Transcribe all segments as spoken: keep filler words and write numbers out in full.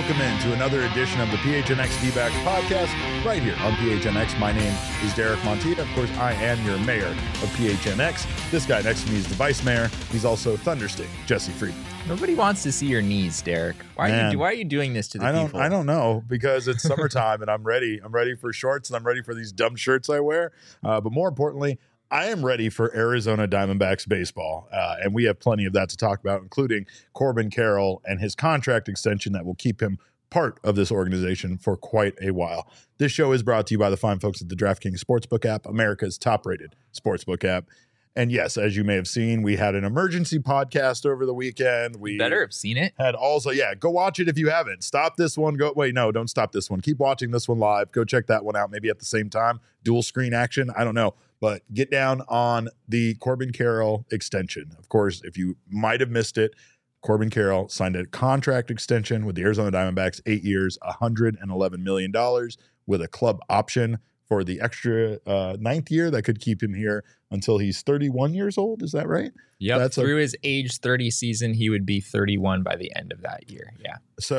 Welcome into another edition of the P H N X D-Backs podcast right here on P H N X. My name is Derek Montilla. Of course, I am your mayor of P H N X. This guy next to me is the vice mayor. He's also Thunderstick, Jesse Friedman. Nobody wants to see your knees, Derek. Why are, you, why are you doing this to the I don't, people? I don't know, because it's summertime and I'm ready. I'm ready for shorts and I'm ready for these dumb shirts I wear. Uh, but more importantly, I am ready for Arizona Diamondbacks baseball, uh, and we have plenty of that to talk about, including Corbin Carroll and his contract extension that will keep him part of this organization for quite a while. This show is brought to you by the fine folks at the DraftKings Sportsbook app, America's top-rated sportsbook app. And yes, as you may have seen, we had an emergency podcast over the weekend. We you better have seen it. Had also, yeah, go watch it if you haven't. Stop this one. Go, wait, no, don't stop this one. Keep watching this one live. Go check that one out, maybe at the same time. Dual screen action. I don't know. But get down on the Corbin Carroll extension. Of course, if you might have missed it, Corbin Carroll signed a contract extension with the Arizona Diamondbacks, eight years, one hundred eleven million dollars with a club option for the extra uh, ninth year that could keep him here until he's thirty-one years old. Is that right? Yep. That's Through a, his age thirty season, he would be thirty-one by the end of that year. Yeah.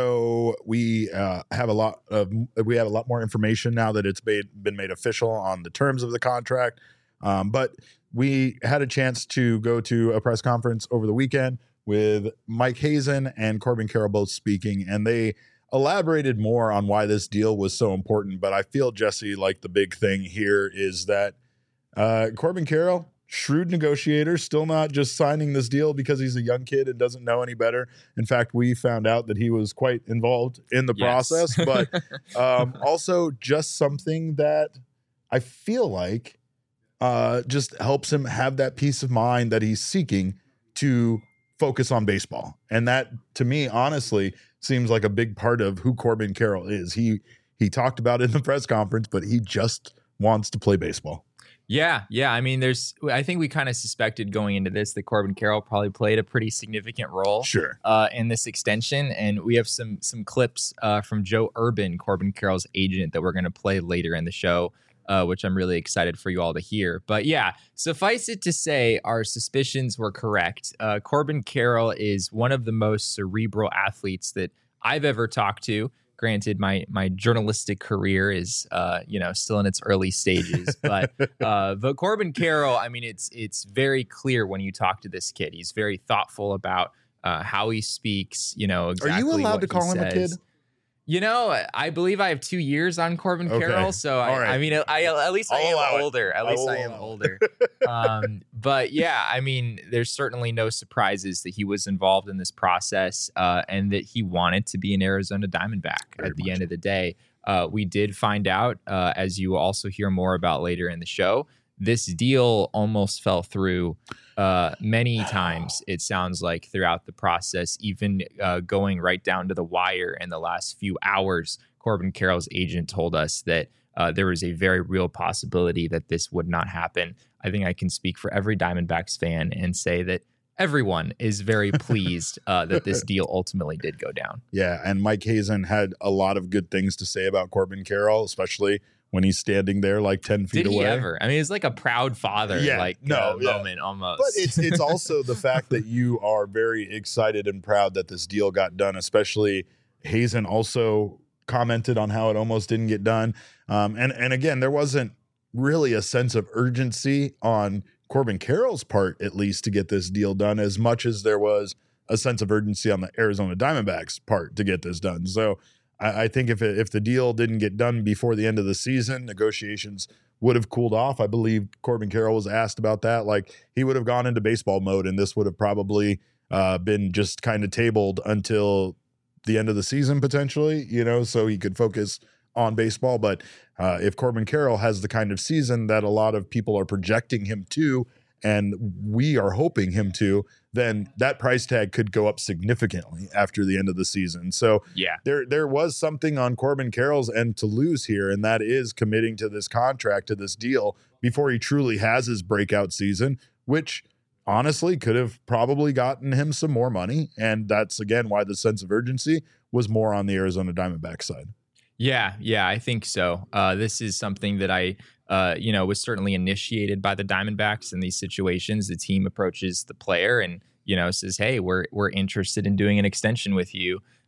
So we uh, have a lot of we have a lot more information now that it's made, been made official on the terms of the contract. Um, but we had a chance to go to a press conference over the weekend with Mike Hazen and Corbin Carroll both speaking, and they elaborated more on why this deal was so important. But I feel, Jesse, like the big thing here is that uh, Corbin Carroll, shrewd negotiator, still not just signing this deal because he's a young kid and doesn't know any better. In fact, we found out that he was quite involved in the Yes. process, but um, also just something that I feel like uh, just helps him have that peace of mind that he's seeking to focus on baseball. And that, to me, honestly, seems like a big part of who Corbin Carroll is. He he talked about it in the press conference, but he just wants to play baseball. Yeah, yeah. I mean, there's. I think we kind of suspected going into this that Corbin Carroll probably played a pretty significant role, Sure. uh, in this extension. And we have some some clips uh, from Joe Urban, Corbin Carroll's agent, that we're going to play later in the show, uh, which I'm really excited for you all to hear. But yeah, suffice it to say, our suspicions were correct. Uh, Corbin Carroll is one of the most cerebral athletes that I've ever talked to. Granted, my my journalistic career is uh, you know still in its early stages, but uh, but Corbin Carroll, I mean, it's it's very clear when you talk to this kid. He's very thoughtful about uh, how he speaks. You know, exactly Are you allowed what to call he him a says. kid? You know, I believe I have two years on Corbin Okay. Carroll, so I, All right. I mean, I at least I I'll allow am it. older. At I least will I am allow it. older. um, but yeah, I mean, there's certainly no surprises that he was involved in this process uh, and that he wanted to be an Arizona Diamondback. Very At the much. end of the day, uh, we did find out, uh, as you will also hear more about later in the show, this deal almost fell through uh, many times, it sounds like, throughout the process, even uh, going right down to the wire in the last few hours. Corbin Carroll's agent told us that uh, there was a very real possibility that this would not happen. I think I can speak for every Diamondbacks fan and say that everyone is very pleased uh, that this deal ultimately did go down. Yeah, and Mike Hazen had a lot of good things to say about Corbin Carroll, especially when he's standing there like ten feet Did he away. ever? I mean, it's like a proud father Yeah, like no, uh, yeah. moment almost. But it's it's also the fact that you are very excited and proud that this deal got done, especially Hazen also commented on how it almost didn't get done. Um, and, and again, there wasn't really a sense of urgency on Corbin Carroll's part, at least, to get this deal done, as much as there was a sense of urgency on the Arizona Diamondbacks part to get this done. So I, I think if it, if the deal didn't get done before the end of the season, negotiations would have cooled off. I believe Corbin Carroll was asked about that. Like, he would have gone into baseball mode, and this would have probably uh, been just kind of tabled until the end of the season, potentially, you know, so he could focus on baseball. But uh, if Corbin Carroll has the kind of season that a lot of people are projecting him to, and we are hoping him to, then that price tag could go up significantly after the end of the season. So yeah, there there was something on Corbin Carroll's end to lose here, and that is committing to this contract, to this deal, before he truly has his breakout season, which honestly could have probably gotten him some more money. And that's, again, why the sense of urgency was more on the Arizona Diamondbacks side. Yeah, yeah, I think so. Uh, this is something that I, uh, you know, was certainly initiated by the Diamondbacks in these situations. The team approaches the player and, you know, says, hey, we're we're interested in doing an extension with you.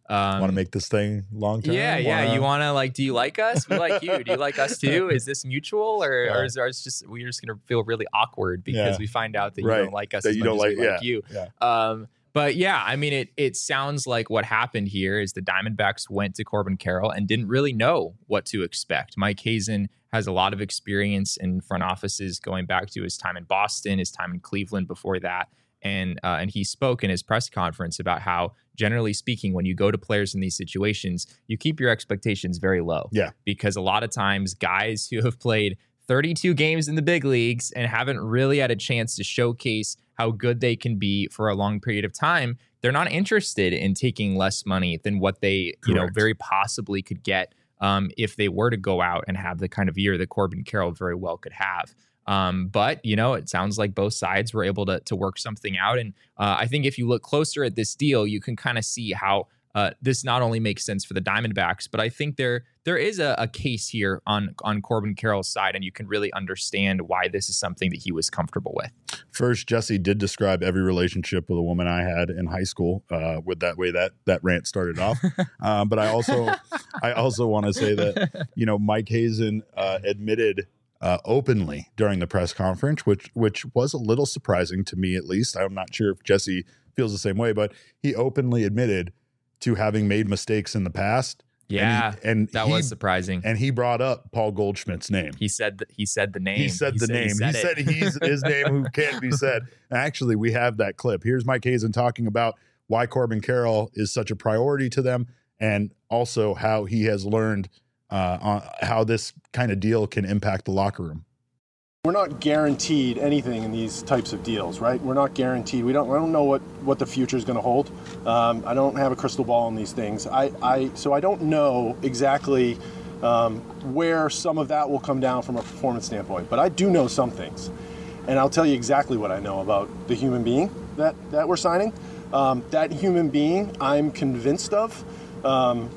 Um, Want to make this thing long term? Yeah, yeah. Wanna... You want to like? Do you like us? We like you. Do you like us too? Is this mutual, or, yeah. or is there just we're just gonna feel really awkward because yeah. we find out that right. you don't like us that as you much don't as like, we yeah. like you? Yeah. Um, but yeah, I mean, it it sounds like what happened here is the Diamondbacks went to Corbin Carroll and didn't really know what to expect. Mike Hazen has a lot of experience in front offices going back to his time in Boston, his time in Cleveland before that. And uh, and he spoke in his press conference about how, generally speaking, when you go to players in these situations, you keep your expectations very low. Yeah. Because a lot of times guys who have played thirty-two games in the big leagues and haven't really had a chance to showcase how good they can be for a long period of time, they're not interested in taking less money than what they, Correct. you know, very possibly could get um, if they were to go out and have the kind of year that Corbin Carroll very well could have. Um, but, you know, it sounds like both sides were able to to work something out. And uh, I think if you look closer at this deal, you can kind of see how uh, this not only makes sense for the Diamondbacks, but I think there there is a, a case here on, on Corbin Carroll's side, and you can really understand why this is something that he was comfortable with. First, Jesse did describe every relationship with a woman I had in high school uh, with that way that that rant started off. um, but I also I also want to say that, you know, Mike Hazen uh, admitted Uh, openly during the press conference, which which was a little surprising to me, at least. I'm not sure if Jesse feels the same way, but he openly admitted to having made mistakes in the past. Yeah, and, he, and that he, was surprising. And he brought up Paul Goldschmidt's name. He said that he said the name. He said he the said name. He said, he said he's his name who can't be said. Actually, we have that clip. Here's Mike Hazen talking about why Corbin Carroll is such a priority to them, and also how he has learned Uh, on how this kind of deal can impact the locker room. We're not guaranteed anything in these types of deals, right? We're not guaranteed. We don't. I don't know what, what the future is going to hold. Um, I don't have a crystal ball on these things. I, I so I don't know exactly um, where some of that will come down from a performance standpoint. But I do know some things, and I'll tell you exactly what I know about the human being that that we're signing. Um, that human being, I'm convinced of. Um,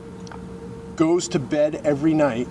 goes to bed every night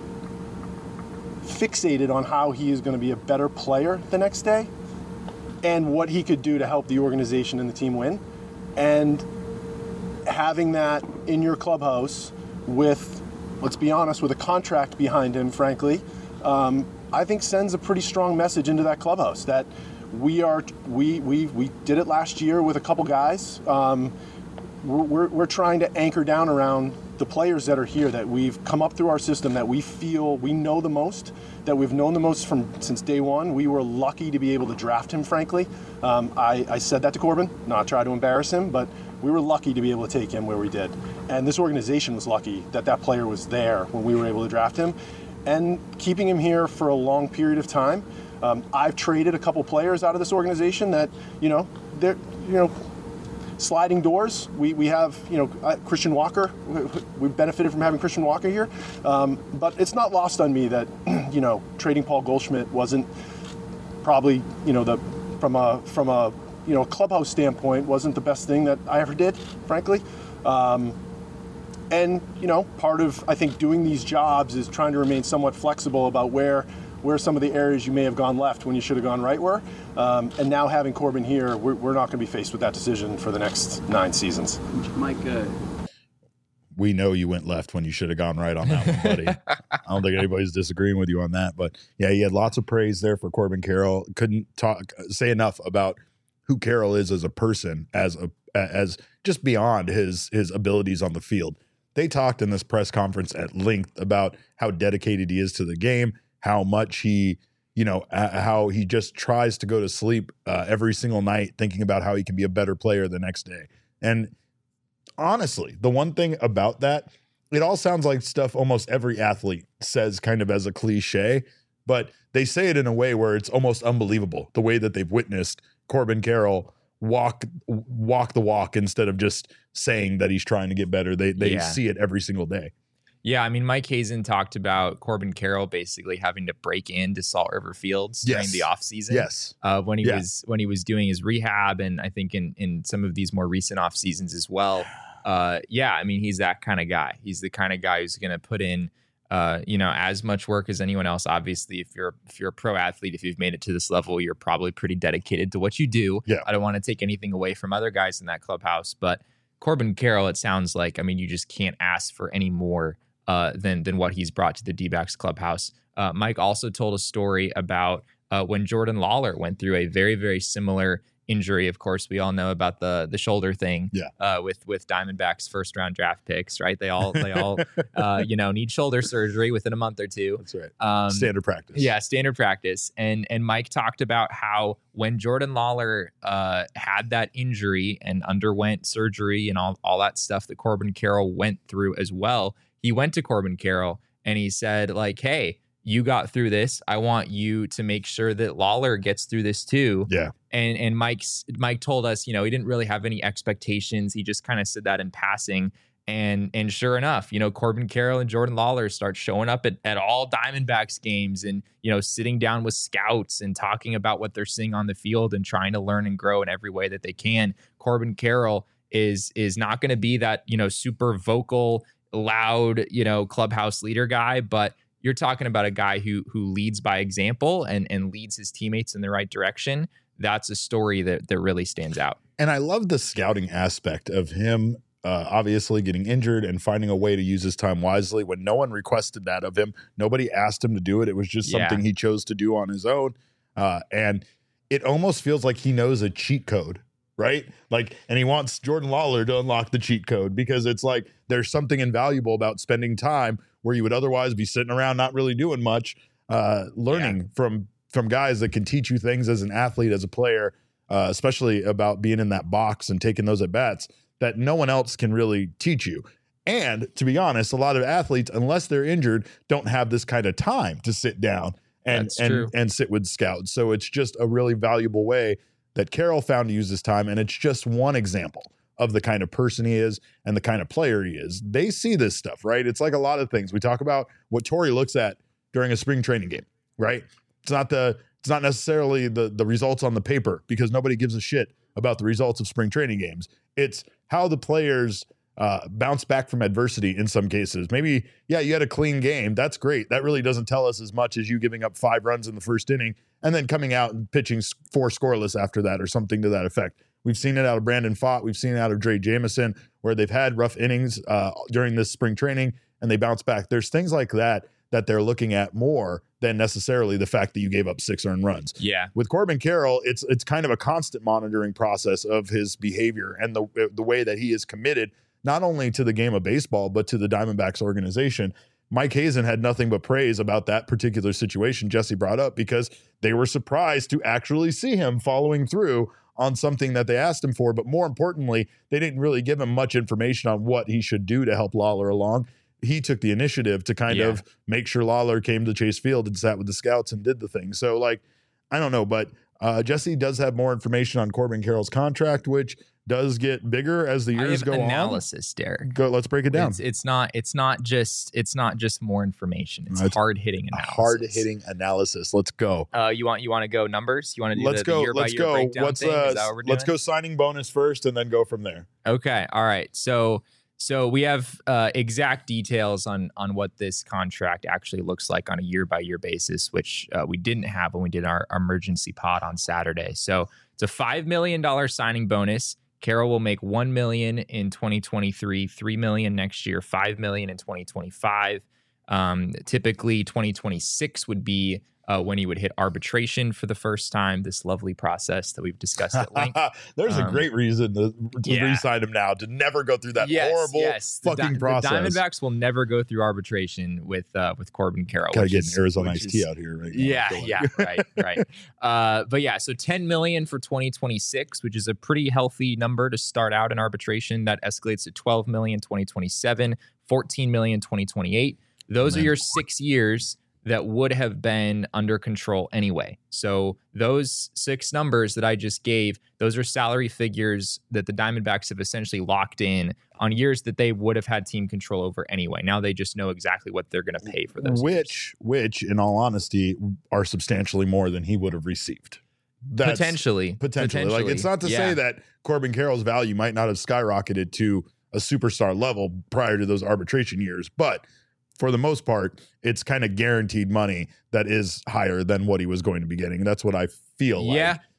fixated on how he is going to be a better player the next day and what he could do to help the organization and the team win. And having that in your clubhouse with, let's be honest, with a contract behind him, frankly, um, I think sends a pretty strong message into that clubhouse that we are, we, we, we did it last year with a couple guys. Um, we're, we're, we're trying to anchor down around the players that are here that we've come up through our system, that we feel we know the most, that we've known the most from since day one. We were lucky to be able to draft him, frankly. Um, I, I said that to Corbin, not try to embarrass him, but we were lucky to be able to take him where we did. And this organization was lucky that that player was there when we were able to draft him. And keeping him here for a long period of time. Um, I've traded a couple players out of this organization that, you know, they're, you know, sliding doors. We we have, you know, uh, Christian Walker. We, we've benefited from having Christian Walker here. Um, but it's not lost on me that, you know, trading Paul Goldschmidt wasn't probably, you know, the from a from a you know clubhouse standpoint wasn't the best thing that I ever did, frankly. Um, and you know, part of I think doing these jobs is trying to remain somewhat flexible about where. where some of the areas you may have gone left when you should have gone right were. Um, and now having Corbin here, we're, we're not going to be faced with that decision for the next nine seasons. Mike, uh... we know you went left when you should have gone right on that one, buddy. I don't think anybody's disagreeing with you on that. But yeah, he had lots of praise there for Corbin Carroll. Couldn't talk, say enough about who Carroll is as a person, as a as just beyond his his abilities on the field. They talked in this press conference at length about how dedicated he is to the game, how much he, you know, uh, how he just tries to go to sleep uh, every single night thinking about how he can be a better player the next day. And honestly, the one thing about that, it all sounds like stuff almost every athlete says kind of as a cliche, but they say it in a way where it's almost unbelievable, the way that they've witnessed Corbin Carroll walk walk the walk instead of just saying that he's trying to get better. They they Yeah. see it every single day. Yeah, I mean, Mike Hazen talked about Corbin Carroll basically having to break into Salt River Fields Yes. during the offseason. Yes. Uh, when he Yeah. was when he was doing his rehab, and I think in in some of these more recent off seasons as well. Uh, yeah, I mean, he's that kind of guy. He's the kind of guy who's going to put in, uh, you know, as much work as anyone else. Obviously, if you're if you're a pro athlete, if you've made it to this level, you're probably pretty dedicated to what you do. Yeah. I don't want to take anything away from other guys in that clubhouse, but Corbin Carroll, it sounds like, I mean, you just can't ask for any more uh, than than what he's brought to the D-backs clubhouse. Uh, Mike also told a story about uh, when Jordan Lawler went through a very, very similar injury. Of course, we all know about the the shoulder thing yeah. uh, with with Diamondbacks first round draft picks, right? They all they all uh, you know need shoulder surgery within a month or two. That's right. Um, standard practice. Yeah, standard practice. And and Mike talked about how when Jordan Lawler uh, had that injury and underwent surgery and all all that stuff that Corbin Carroll went through as well, he went to Corbin Carroll and he said like, hey, you got through this. I want you to make sure that Lawler gets through this too. Yeah. And and Mike's Mike told us, you know, he didn't really have any expectations. He just kind of said that in passing. And and sure enough, you know, Corbin Carroll and Jordan Lawler start showing up at, at all Diamondbacks games and, you know, sitting down with scouts and talking about what they're seeing on the field and trying to learn and grow in every way that they can. Corbin Carroll is is not going to be that, you know, super vocal, loud, you know, clubhouse leader guy, but you're talking about a guy who who leads by example and, and leads his teammates in the right direction. That's a story that that really stands out. And I love the scouting aspect of him uh, obviously getting injured and finding a way to use his time wisely when no one requested that of him. Nobody asked him to do it. It was just something Yeah. he chose to do on his own. Uh, and it almost feels like he knows a cheat code, right? Like, and he wants Jordan Lawler to unlock the cheat code because it's like there's something invaluable about spending time where you would otherwise be sitting around not really doing much, uh, learning Yeah. from from guys that can teach you things as an athlete, as a player, uh, especially about being in that box and taking those at bats that no one else can really teach you. And to be honest, a lot of athletes, unless they're injured, don't have this kind of time to sit down and That's and true. and sit with scouts. So it's just a really valuable way that Carroll found to use his time, and it's just one example of the kind of person he is and the kind of player he is. They see this stuff, right? It's like a lot of things. We talk about what Torrey looks at during a spring training game, right? It's not the it's not necessarily the the results on the paper because nobody gives a shit about the results of spring training games. It's how the players uh, bounce back from adversity in some cases. Maybe, yeah, you had a clean game. That's great. That really doesn't tell us as much as you giving up five runs in the first inning and then coming out and pitching four scoreless after that or something to that effect. We've seen it out of Brandon Pfaadt. We've seen it out of Dre Jameson where they've had rough innings uh, during this spring training and they bounce back. There's things like that that they're looking at more than necessarily the fact that you gave up six earned runs. Yeah. With Corbin Carroll, it's it's kind of a constant monitoring process of his behavior and the the way that he is committed not only to the game of baseball but to the Diamondbacks organization. Mike Hazen had nothing but praise about that particular situation Jesse brought up because they were surprised to actually see him following through on something that they asked him for. But more importantly, they didn't really give him much information on what he should do to help Lawler along. He took the initiative to kind Yeah. of make sure Lawler came to Chase Field and sat with the scouts and did the thing. So, like, I don't know, but uh, Jesse does have more information on Corbin Carroll's contract, which does get bigger as the I years have go analysis, Derek. on. Go, let's break it down. It's, it's not it's not just it's not just more information. It's It's hard hitting A analysis. hard hitting analysis. Let's go. Uh, you want you want to go numbers? You want to do Let's the, go. the year Let's by year go. breakdown What's thing? uh? Is that what we're Let's doing? go signing bonus first, and then go from there. Okay. All right. So so we have uh, exact details on on what this contract actually looks like on a year by year basis, which uh, we didn't have when we did our, our emergency pod on Saturday. So it's a five million dollar signing bonus. Carroll will make one million dollars in twenty twenty-three, three million dollars next year, five million dollars in twenty twenty-five. Um, typically, twenty twenty-six would be uh, when he would hit arbitration for the first time. This lovely process that we've discussed at length. There's a Um, great reason to, to yeah. re-sign him now, to never go through that yes, horrible yes. The fucking Di- process. The Diamondbacks will never go through arbitration with uh, with Corbin Carroll. Gotta which get is- an Arizona which iced tea is- out here right now. I Yeah, feel like. yeah, right, right. Uh, but yeah, so ten million for twenty twenty-six, which is a pretty healthy number to start out in arbitration. That escalates to twelve million twenty twenty-seven, fourteen million twenty twenty-eight. Those Man. are your six years that would have been under control anyway. So those six numbers that I just gave, those are salary figures that the Diamondbacks have essentially locked in on years that they would have had team control over anyway. Now they just know exactly what they're going to pay for those years. Which, which, in all honesty, are substantially more than he would have received. That's Potentially. potentially. Like, it's not to Yeah. say that Corbin Carroll's value might not have skyrocketed to a superstar level prior to those arbitration years, but for the most part, it's kind of guaranteed money that is higher than what he was going to be getting. That's what I feel like. Yeah.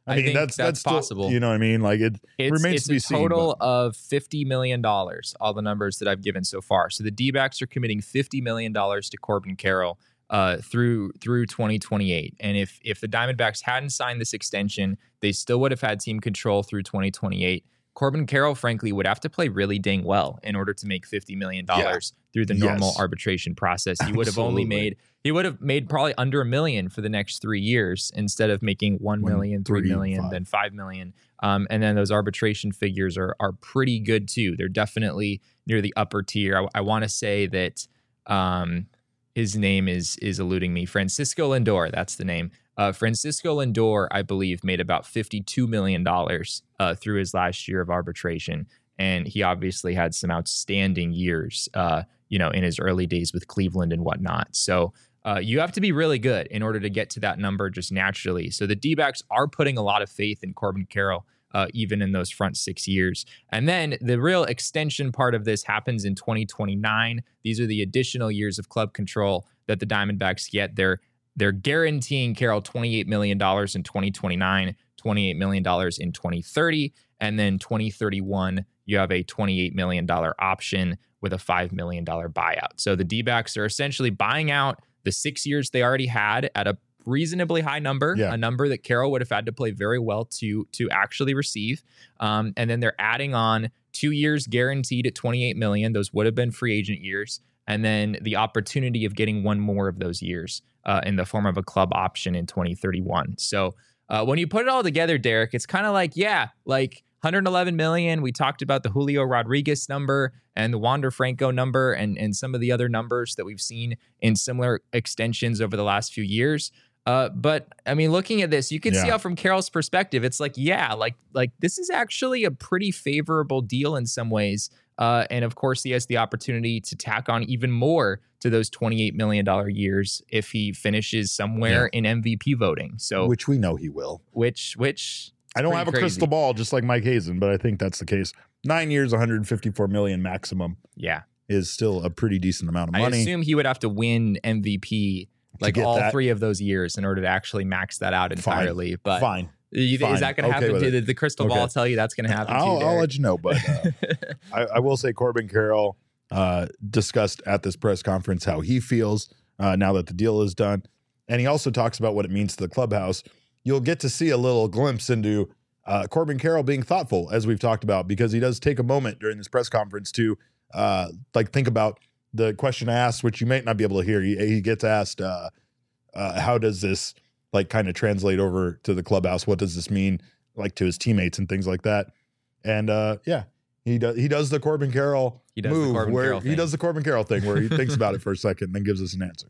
I mean, think that's that's that's still- possible. you know what I mean? Like it It's, remains it's to be a seen. total but- of fifty million dollars, all the numbers that I've given so far. So the D-backs are committing fifty million dollars to Corbin Carroll uh, through through twenty twenty-eight. And if if the Diamondbacks hadn't signed this extension, they still would have had team control through twenty twenty-eight. Corbin Carroll, frankly, would have to play really dang well in order to make fifty million dollars yeah. through the normal Yes. arbitration process. He would have Absolutely. only made, he would have made probably under a million for the next three years instead of making one One, million, three three, million, five. then five million. Um, and then those arbitration figures are are pretty good too. They're definitely near the upper tier. I, I want to say that um, his name is is eluding me. Francisco Lindor, that's the name. Uh, Francisco Lindor, I believe, made about fifty-two million dollars uh, through his last year of arbitration. And he obviously had some outstanding years, uh, you know, in his early days with Cleveland and whatnot. So uh, you have to be really good in order to get to that number just naturally. So the D-backs are putting a lot of faith in Corbin Carroll, uh, even in those front six years. And then the real extension part of this happens in twenty twenty-nine. These are the additional years of club control that the Diamondbacks get. They're They're guaranteeing Carroll twenty-eight million dollars in twenty twenty-nine, twenty-eight million dollars in twenty thirty, and then twenty thirty-one, you have a twenty-eight million dollars option with a five million dollars buyout. So the D-backs are essentially buying out the six years they already had at a reasonably high number, Yeah. a number that Carroll would have had to play very well to, to actually receive. Um, and then they're adding on two years guaranteed at twenty-eight million dollars. Those would have been free agent years. And then the opportunity of getting one more of those years uh, in the form of a club option in twenty thirty-one. So uh, when you put it all together, Derek, it's kind of like, yeah, like one hundred eleven million. We talked about the Julio Rodriguez number and the Wander Franco number and, and some of the other numbers that we've seen in similar extensions over the last few years. Uh, but I mean, looking at this, you can see Yeah. how from Carroll's perspective, it's like, yeah, like, like this is actually a pretty favorable deal in some ways. Uh, and of course, he has the opportunity to tack on even more to those twenty-eight million dollars years if he finishes somewhere in M V P voting. So, which we know he will. which, which I don't pretty have a crazy. crystal ball, just like Mike Hazen, but I think that's the case. Nine years, one hundred fifty-four million maximum yeah, is still a pretty decent amount of I money. assume he would have to win M V P like get all that. three of those years in order to actually max that out Fine. entirely. But Fine. you, Fine. is that going to Okay happen? with Did it. the, the crystal ball Okay. tell you that's going to happen? I'll, too, I'll Derek? let you know, but uh, I, I will say Corbin Carroll uh, discussed at this press conference how he feels uh, now that the deal is done. And he also talks about what it means to the clubhouse. You'll get to see a little glimpse into uh, Corbin Carroll being thoughtful, as we've talked about, because he does take a moment during this press conference to uh, like think about the question I asked, which you might not be able to hear. He, he gets asked, uh, uh, how does this like kind of translate over to the clubhouse? What does this mean like to his teammates and things like that? And uh, yeah, he does. He does the Corbin Carroll He does the move Corbin where Carroll he thing. does the Corbin Carroll thing where he thinks about it for a second and then gives us an answer.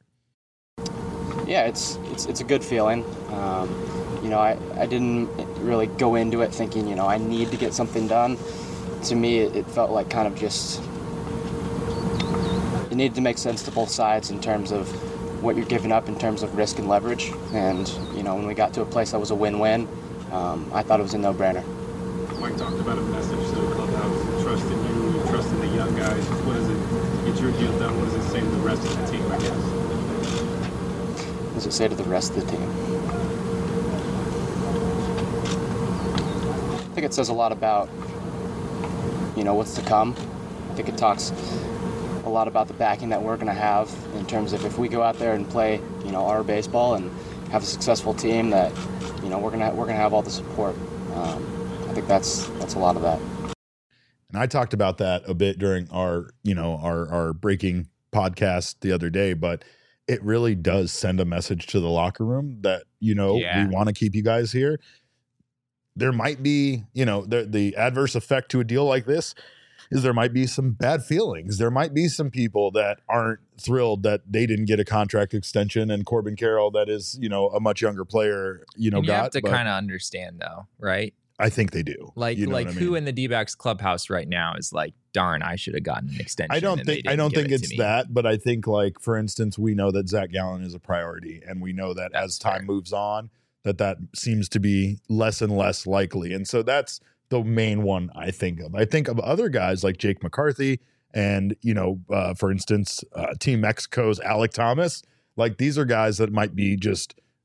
Yeah, it's it's it's a good feeling. Um, you know, I, I didn't really go into it thinking, you know, I need to get something done. To me, it, it felt like kind of just it needed to make sense to both sides in terms of what you're giving up in terms of risk and leverage. And you know, when we got to a place that was a win-win, um, I thought it was a no-brainer. Mike talked about a message to the clubhouse, trust in you, trust in the young guys. What does it get your deal done? What does it say to the rest of the team, I guess? What does it say to the rest of the team? I think it says a lot about, you know, what's to come. I think it talks a lot about the backing that we're going to have in terms of if we go out there and play, you know, our baseball and have a successful team, that, you know, we're gonna we're gonna have all the support. Um, I think that's that's a lot of that. And I talked about that a bit during our, you know, our our breaking podcast the other day, but it really does send a message to the locker room that, you know, Yeah. we want to keep you guys here. There might be, you know, the the adverse effect to a deal like this is there might be some bad feelings. There might be some people that aren't thrilled that they didn't get a contract extension, and Corbin Carroll, that is, you know, a much younger player, you know, And you got. have to but kind of understand though, right? I think they do. Like, You know like what I who mean? in the D-backs clubhouse right now is like, darn, I should have gotten an extension. I don't and they think I didn't don't give think it to it's me. that, but I think, like, for instance, we know that Zach Gallen is a priority, and we know that That's as time fair. moves on, that that seems to be less and less likely, and so that's the main one I think of. I think of other guys like Jake McCarthy, and you know, uh, for instance, uh, Team Mexico's Alec Thomas. Like, these are guys that might be just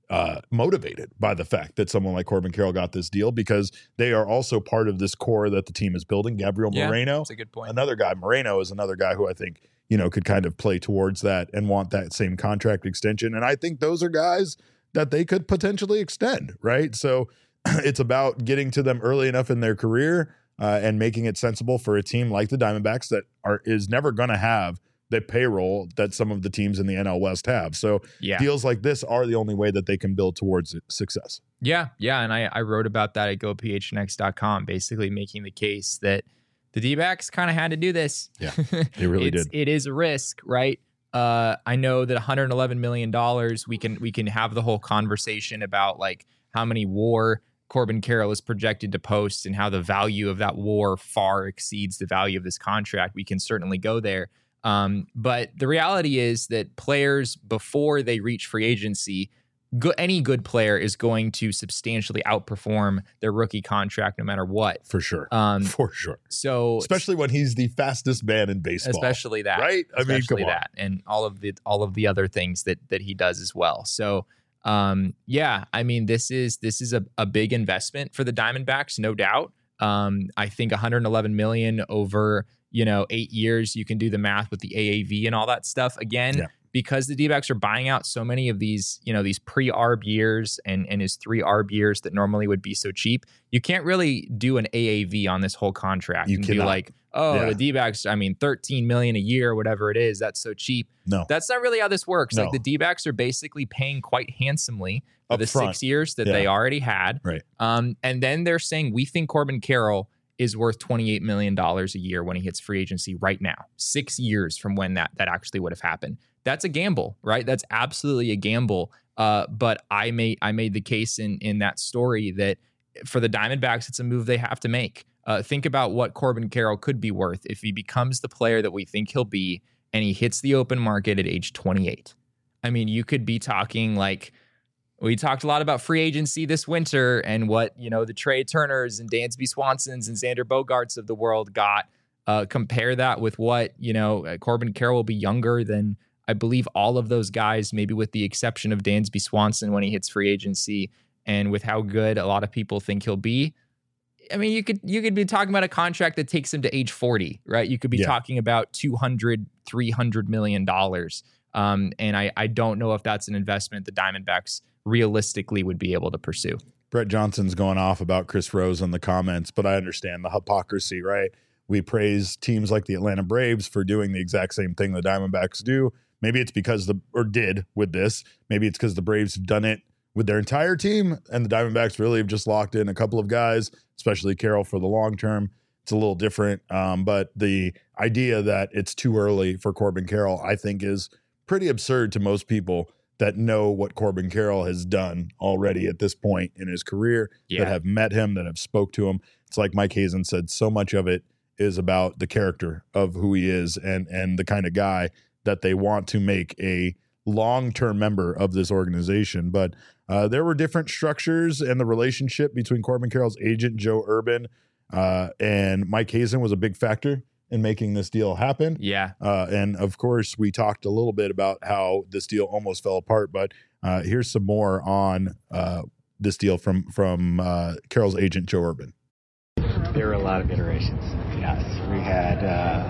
uh, motivated by the fact that someone like Corbin Carroll got this deal, because they are also part of this core that the team is building. Gabriel Yeah, Moreno, that's a good point. another guy. Moreno is another guy who I think, you know, could kind of play towards that and want that same contract extension. And I think those are guys that they could potentially extend, right? So it's about getting to them early enough in their career uh, and making it sensible for a team like the Diamondbacks that are is never going to have the payroll that some of the teams in the N L West have. So Yeah. deals like this are the only way that they can build towards success. Yeah, yeah, and I, I wrote about that at go p h n x dot com, basically making the case that the D-backs kind of had to do this. Yeah, they really it's, did. It is a risk, right? Uh, I know that one hundred eleven million dollars, we can we can have the whole conversation about like how many WAR Corbin Carroll is projected to post and how the value of that WAR far exceeds the value of this contract. We can certainly go there. Um, but the reality is that players, before they reach free agency, go, any good player is going to substantially outperform their rookie contract no matter what. For sure. Um, For sure. So Especially when he's the fastest man in baseball. especially that, Right? I mean, especially come on. that, and all of the all of the other things that that he does as well. So, um, yeah, I mean, this is this is a, a big investment for the Diamondbacks, no doubt. Um, I think one hundred eleven million over, you know, eight years. You can do the math with the A A V and all that stuff. Again, Yeah. because the D-backs are buying out so many of these, you know, these pre-A R B years and and his three A R B years that normally would be so cheap. You can't really do an A A V on this whole contract You and cannot. be like, oh, Yeah. the D-backs, I mean, thirteen million a year, whatever it is, that's so cheap. No. That's not really how this works. No. Like the D-backs are basically paying quite handsomely for Up the front. six years that Yeah. they already had. Right. Um, and then they're saying, we think Corbin Carroll is worth twenty-eight million dollars a year when he hits free agency right now, six years from when that that actually would have happened. That's a gamble, right? That's absolutely a gamble. Uh, but I made I made the case in in that story that for the Diamondbacks, it's a move they have to make. Uh, think about what Corbin Carroll could be worth if he becomes the player that we think he'll be and he hits the open market at age twenty-eight. I mean, you could be talking like, we talked a lot about free agency this winter and what, you know, the Trey Turners and Dansby Swansons and Xander Bogaerts of the world got. Uh, compare that with what, you know, uh, Corbin Carroll will be younger than, I believe, all of those guys, maybe with the exception of Dansby Swanson when he hits free agency, and with how good a lot of people think he'll be. I mean, you could you could be talking about a contract that takes him to age forty, right? You could be Yeah. talking about two hundred, three hundred million dollars. Um, and I, I don't know if that's an investment the Diamondbacks realistically would be able to pursue. Brett Johnson's going off about Chris Rose in the comments, but I understand the hypocrisy, right? We praise teams like the Atlanta Braves for doing the exact same thing the Diamondbacks do. Maybe it's because the, or did with this, maybe it's because the Braves have done it with their entire team and the Diamondbacks really have just locked in a couple of guys, especially Carroll for the long term. It's a little different. Um, but the idea that it's too early for Corbin Carroll, I think, is pretty absurd to most people that know what Corbin Carroll has done already at this point in his career, Yeah. that have met him, that have spoke to him. It's like Mike Hazen said, so much of it is about the character of who he is and and the kind of guy that they want to make a long-term member of this organization. But uh, there were different structures, and the relationship between Corbin Carroll's agent, Joe Urban, uh, and Mike Hazen was a big factor in making this deal happen. Yeah. Uh, and of course, we talked a little bit about how this deal almost fell apart, but uh, here's some more on uh, this deal from from uh, Carroll's agent, Joe Urban. There were a lot of iterations. Yes, we had, uh,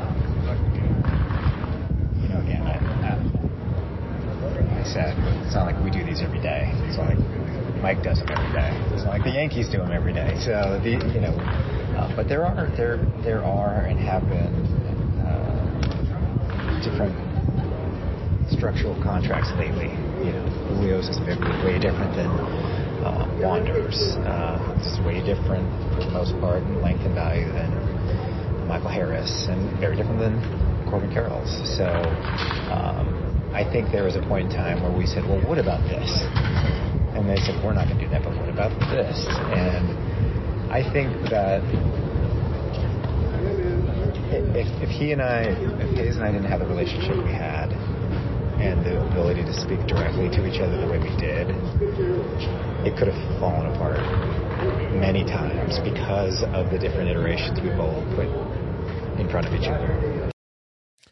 you know, again, I, I, I said, it's not like we do these every day. It's not like Mike does them every day. It's not like the Yankees do them every day. So, the, you know, uh, but there are, there, there are and have been uh, different structural contracts lately. You know, Julio's is very, way different than uh, Wanderers. Uh, it's way different, for the most part, in length and value than Michael Harris, and very different than Corbin Carroll's. So um, I think there was a point in time where we said, well, what about this? And they said, we're not going to do that, but what about this? And I think that if, if he and I, if Hayes and I didn't have the relationship we had, and the ability to speak directly to each other the way we did, it could have fallen apart many times because of the different iterations we both put in front of each other.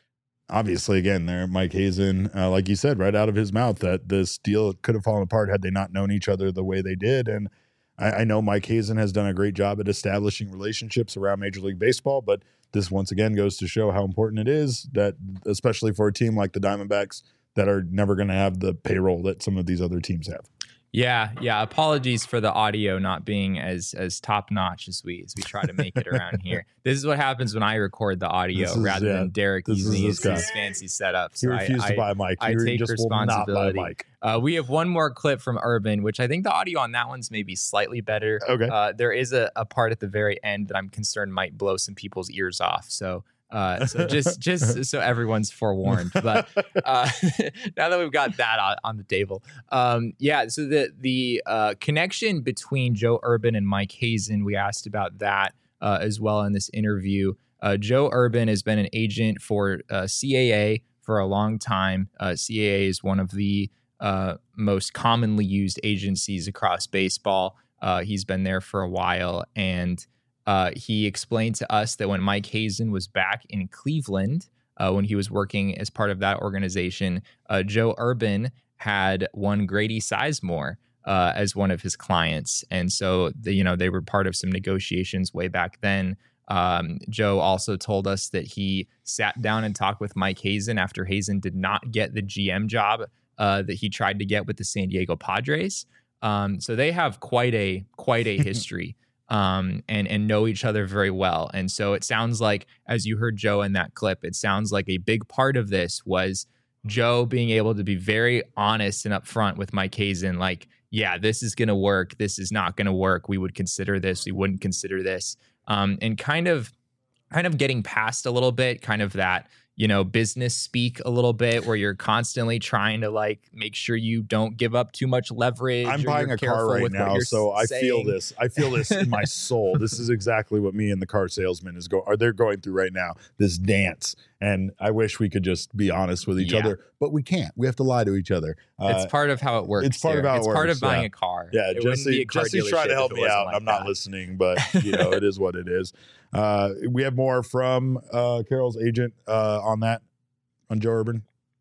obviously, again, there, Mike Hazen, uh, like you said, right out of his mouth, that this deal could have fallen apart had they not known each other the way they did. And I, I know Mike Hazen has done a great job at establishing relationships around Major League Baseball, but this once again goes to show how important it is that, especially for a team like the Diamondbacks that are never going to have the payroll that some of these other teams have. Yeah, yeah. Apologies for the audio not being as as top notch as we as we try to make it around here. This is what happens when I record the audio is, rather yeah, than Derek this using is his, his fancy setups. He refused I, to buy a mic. I, He I take just will not buy a responsibility. mic. Uh, we have one more clip from Urban, which I think the audio on that one's maybe slightly better. Okay. Uh, there is a, a part at the very end that I'm concerned might blow some people's ears off. So. Uh, so just just so everyone's forewarned. But uh, now that we've got that on, on the table, um, yeah. So the the uh, connection between Joe Urban and Mike Hazen, we asked about that uh, as well in this interview. Uh, Joe Urban has been an agent for uh, C A A for a long time. Uh, C A A is one of the uh, most commonly used agencies across baseball. Uh, he's been there for a while, and Uh, he explained to us that when Mike Hazen was back in Cleveland, uh, when he was working as part of that organization, uh, Joe Urban had one Grady Sizemore uh, as one of his clients. And so, the, you know, they were part of some negotiations way back then. Um, Joe also told us that he sat down and talked with Mike Hazen after Hazen did not get the G M job uh, that he tried to get with the San Diego Padres. Um, so they have quite a quite a history. Um, and and know each other very well. And so it sounds like, as you heard Joe in that clip, it sounds like a big part of this was Joe being able to be very honest and upfront with Mike Hazen, like, yeah, this is going to work. This is not going to work. We would consider this. We wouldn't consider this. Um, and kind of, kind of getting past a little bit, kind of that, you know, business speak a little bit where you're constantly trying to like make sure you don't give up too much leverage. I'm buying a car right now, so I saying. feel this. I feel this in my soul. This is exactly what me and the car salesman is go are they're going through right now, this dance. And I wish we could just be honest with each Yeah. other, but we can't. We have to lie to each other. Uh, It's part of how it works. it's part of Derek. how it It's part works, of buying yeah. a car. Yeah, It wouldn't be Jesse, a car Jesse's trying dealership to help if it me wasn't out. like I'm not that. listening, but you know, it is what it is. Uh, we have more from uh, Carroll's agent uh, on that, on Joe Urban.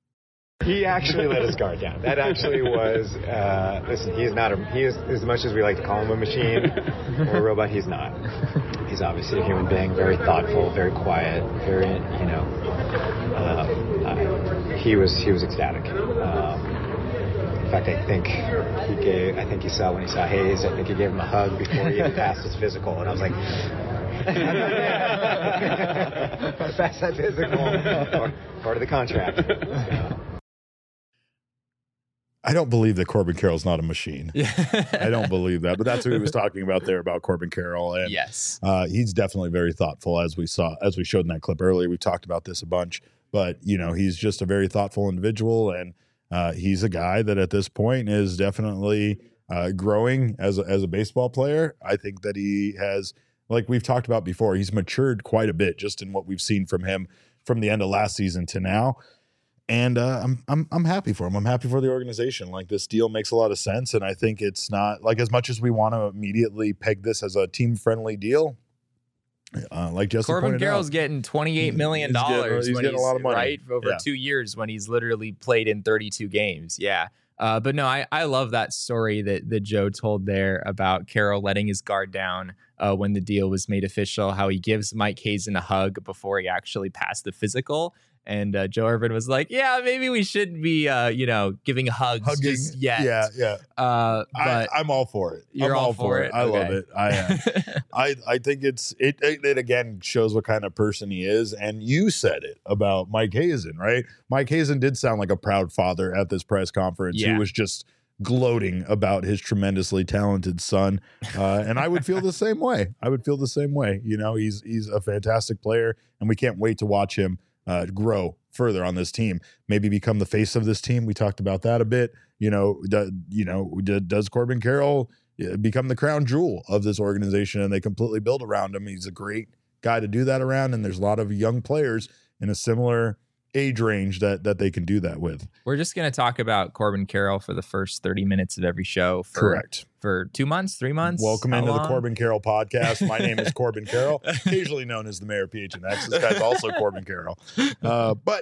He actually let his guard down. That actually was, uh, listen, he is not a, he is, as much as we like to call him a machine or a robot, he's not. He's obviously a human being, very thoughtful, very quiet, very, you know, uh, I, he was, he was ecstatic. Um, in fact, I think he gave, I think he saw when he saw Hayes, I think he gave him a hug before he even passed his physical. And I was like, pass that physical, part, part of the contract. So. I don't believe that Corbin Carroll's not a machine. I don't believe that, but that's what he was talking about there about Corbin Carroll. And Yes. uh, he's definitely very thoughtful, as we saw, as we showed in that clip earlier. We talked about this a bunch, but you know, he's just a very thoughtful individual, and uh, he's a guy that at this point is definitely uh, growing as a, as a baseball player. I think that he has, like we've talked about before, he's matured quite a bit just in what we've seen from him from the end of last season to now. And uh, I'm I'm I'm happy for him. I'm happy for the organization. Like, this deal makes a lot of sense, and I think it's not like, as much as we want to immediately peg this as a team friendly deal. Uh, like Jesse Corbin pointed Carroll's out, getting twenty-eight million He's getting- dollars he's when getting a he's lot of money. right over Yeah. two years when he's literally played in thirty-two games. Yeah. Uh, but no, I, I love that story that, that Joe told there about Carroll letting his guard down uh, when the deal was made official, how he gives Mike Hazen a hug before he actually passed the physical. And uh, Joe Urban was like, yeah, maybe we shouldn't be, uh, you know, giving hugs hugging. just yet. Yeah, yeah. Uh, I, but I'm all for it. you're I'm all for it? I love Okay. it. I am. I I think it's it, it. It again shows what kind of person he is. And you said it about Mike Hazen, right? Mike Hazen did sound like a proud father at this press conference. Yeah. Who was just gloating about his tremendously talented son, uh, and I would feel the same way. I would feel the same way. You know, he's he's a fantastic player, and we can't wait to watch him uh, grow further on this team. Maybe become the face of this team. We talked about that a bit. You know, do, you know, do, does Corbin Carroll become the crown jewel of this organization, and they completely build around him? He's a great guy to do that around, and there's a lot of young players in a similar age range that that they can do that with. We're just going to talk about Corbin Carroll for the first thirty minutes of every show. For, Correct. For two months, three months. Welcome How into long? the Corbin Carroll podcast. My name is Corbin Carroll, occasionally known as the Mayor P H N X. This guy's also Corbin Carroll. Uh, but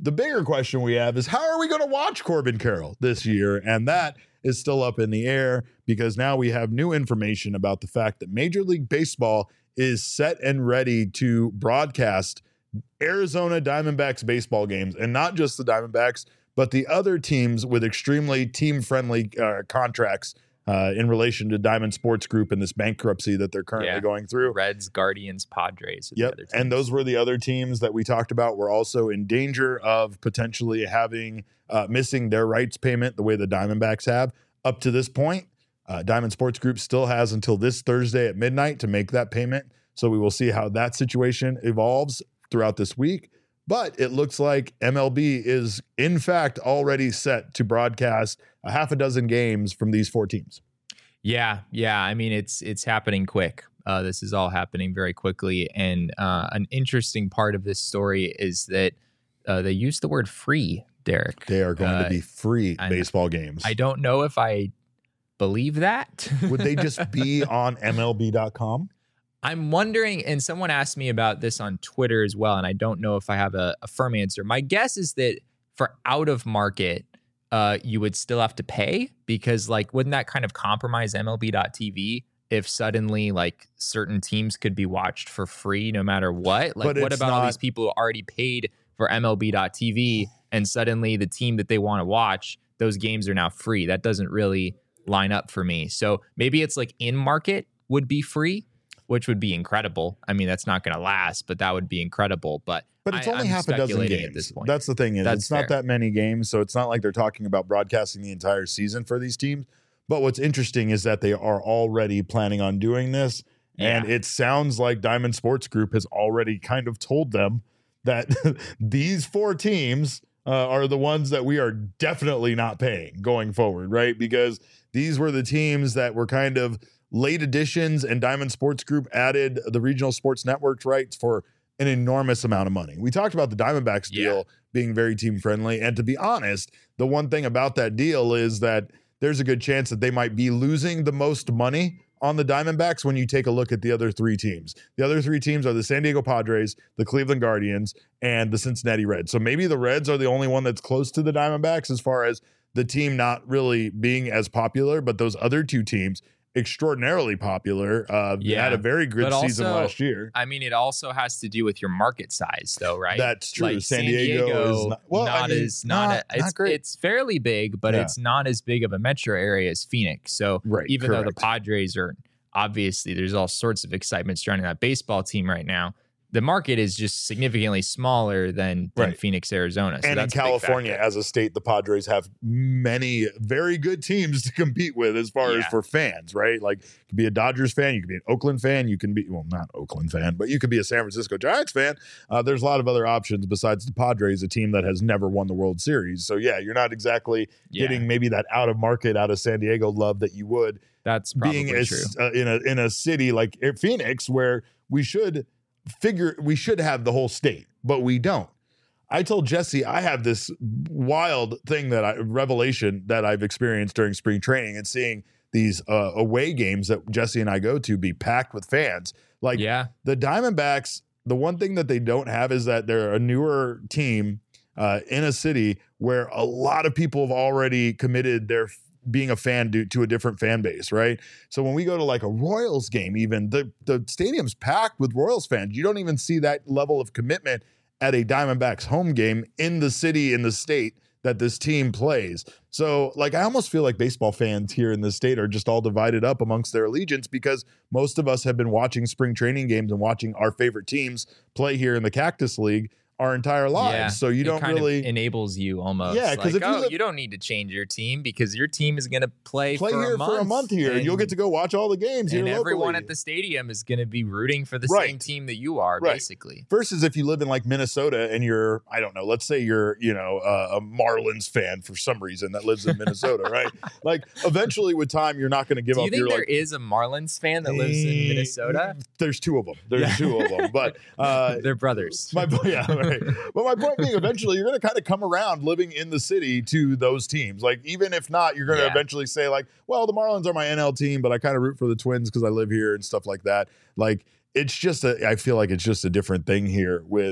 the bigger question we have is, how are we going to watch Corbin Carroll this year? And that is still up in the air, because now we have new information about the fact that Major League Baseball is set and ready to broadcast Arizona Diamondbacks baseball games, and not just the Diamondbacks, but the other teams with extremely team-friendly uh, contracts uh, in relation to Diamond Sports Group and this bankruptcy that they're currently Yeah. going through. Reds, Guardians, Padres. are the Yep. other teams. And those were the other teams that we talked about were also in danger of potentially having uh, missing their rights payment the way the Diamondbacks have. Up to this point, uh, Diamond Sports Group still has until this Thursday at midnight to make that payment. So we will see how that situation evolves throughout this week. But it looks like M L B is, in fact, already set to broadcast a half a dozen games from these four teams. Yeah, yeah. I mean, it's it's happening quick. Uh, this is all happening very quickly. And uh, an interesting part of this story is that uh, they use the word free, Derek. They are going Uh, to be free I- baseball games. I don't know if I believe that. Would they just be on M L B dot com? I'm wondering, and someone asked me about this on Twitter as well, and I don't know if I have a, a firm answer. My guess is that for out of market, uh, you would still have to pay, because like, wouldn't that kind of compromise M L B dot T V if suddenly like certain teams could be watched for free no matter what? Like, But what it's about all not- these people who already paid for M L B dot T V and suddenly the team that they want to watch, those games are now free? That doesn't really line up for me. So maybe it's like in market would be free, which would be incredible. I mean, that's not going to last, but that would be incredible. But But it's I- only I'm half a dozen speculating games. at this point. That's the thing is, That's it's not fair. that many games, so it's not like they're talking about broadcasting the entire season for these teams. But what's interesting is that they are already planning on doing this, and Yeah. it sounds like Diamond Sports Group has already kind of told them that these four teams uh, are the ones that we are definitely not paying going forward, right? Because these were the teams that were kind of late additions, and Diamond Sports Group added the regional sports networks rights for an enormous amount of money. We talked about the Diamondbacks deal Yeah. being very team friendly. And to be honest, the one thing about that deal is that there's a good chance that they might be losing the most money on the Diamondbacks when you take a look at the other three teams. The other three teams are the San Diego Padres, the Cleveland Guardians, and the Cincinnati Reds. So maybe the Reds are the only one that's close to the Diamondbacks as far as the team not really being as popular, but those other two teams, extraordinarily popular. Uh, Yeah. had a very good But season also, last year. I mean, it also has to do with your market size, though, right? That's true. Like San Diego is not- well, I not mean, as not, not- a, it's, not great. It's fairly big, but Yeah. it's not as big of a metro area as Phoenix. So Right, even though the correct. Padres are obviously, there's all sorts of excitement surrounding that baseball team right now. The market is just significantly smaller than, than Right. Phoenix, Arizona. So And in that's a big California, factor. as a state, the Padres have many very good teams to compete with as far as Yeah. for fans, right? Like, you could be a Dodgers fan, you could be an Oakland fan, you can be, well, not Oakland fan, but you could be a San Francisco Giants fan. Uh, there's a lot of other options besides the Padres, a team that has never won the World Series. So, yeah, you're not exactly Yeah. getting maybe that out of market, out of San Diego love that you would That's probably being a, true. uh, in a in a city like Phoenix, where we should figure we should have the whole state, but we don't. I told Jesse I have this wild thing that I revelation that I've experienced during spring training and seeing these uh, away games that Jesse and I go to be packed with fans. Like Yeah. the Diamondbacks, the one thing that they don't have is that they're a newer team uh, in a city where a lot of people have already committed their being a fan to, to a different fan base, right? So when we go to like a Royals game, even the, the stadium's packed with Royals fans. You don't even see that level of commitment at a Diamondbacks home game in the city, in the state that this team plays. So like, I almost feel like baseball fans here in the state are just all divided up amongst their allegiance, because most of us have been watching spring training games and watching our favorite teams play here in the Cactus League our entire lives. Yeah, So you it don't kind really of enables you almost. Yeah, 'cause like, if you oh, live- you don't need to change your team because your team is going to play, play for here a month, for a month here, and you'll get to go watch all the games here and everyone locally. at the stadium is going to be rooting for the Right. same team that you are, Right. basically. Versus if you live in like Minnesota and you're, I don't know, let's say you're, you know, uh, a Marlins fan for some reason that lives in Minnesota, right? Like eventually with time, you're not going to give Do you up think your there like. is a Marlins fan that lives in Eh, Minnesota? There's two of them. There's Yeah. two of them. But uh, They're brothers. my yeah, right. But my point being, eventually you're going to kind of come around living in the city to those teams. Like even if not, you're going to Yeah. eventually say like, well, the Marlins are my N L team, but I kind of root for the Twins because I live here and stuff like that. Like it's just a, I feel like it's just a different thing here with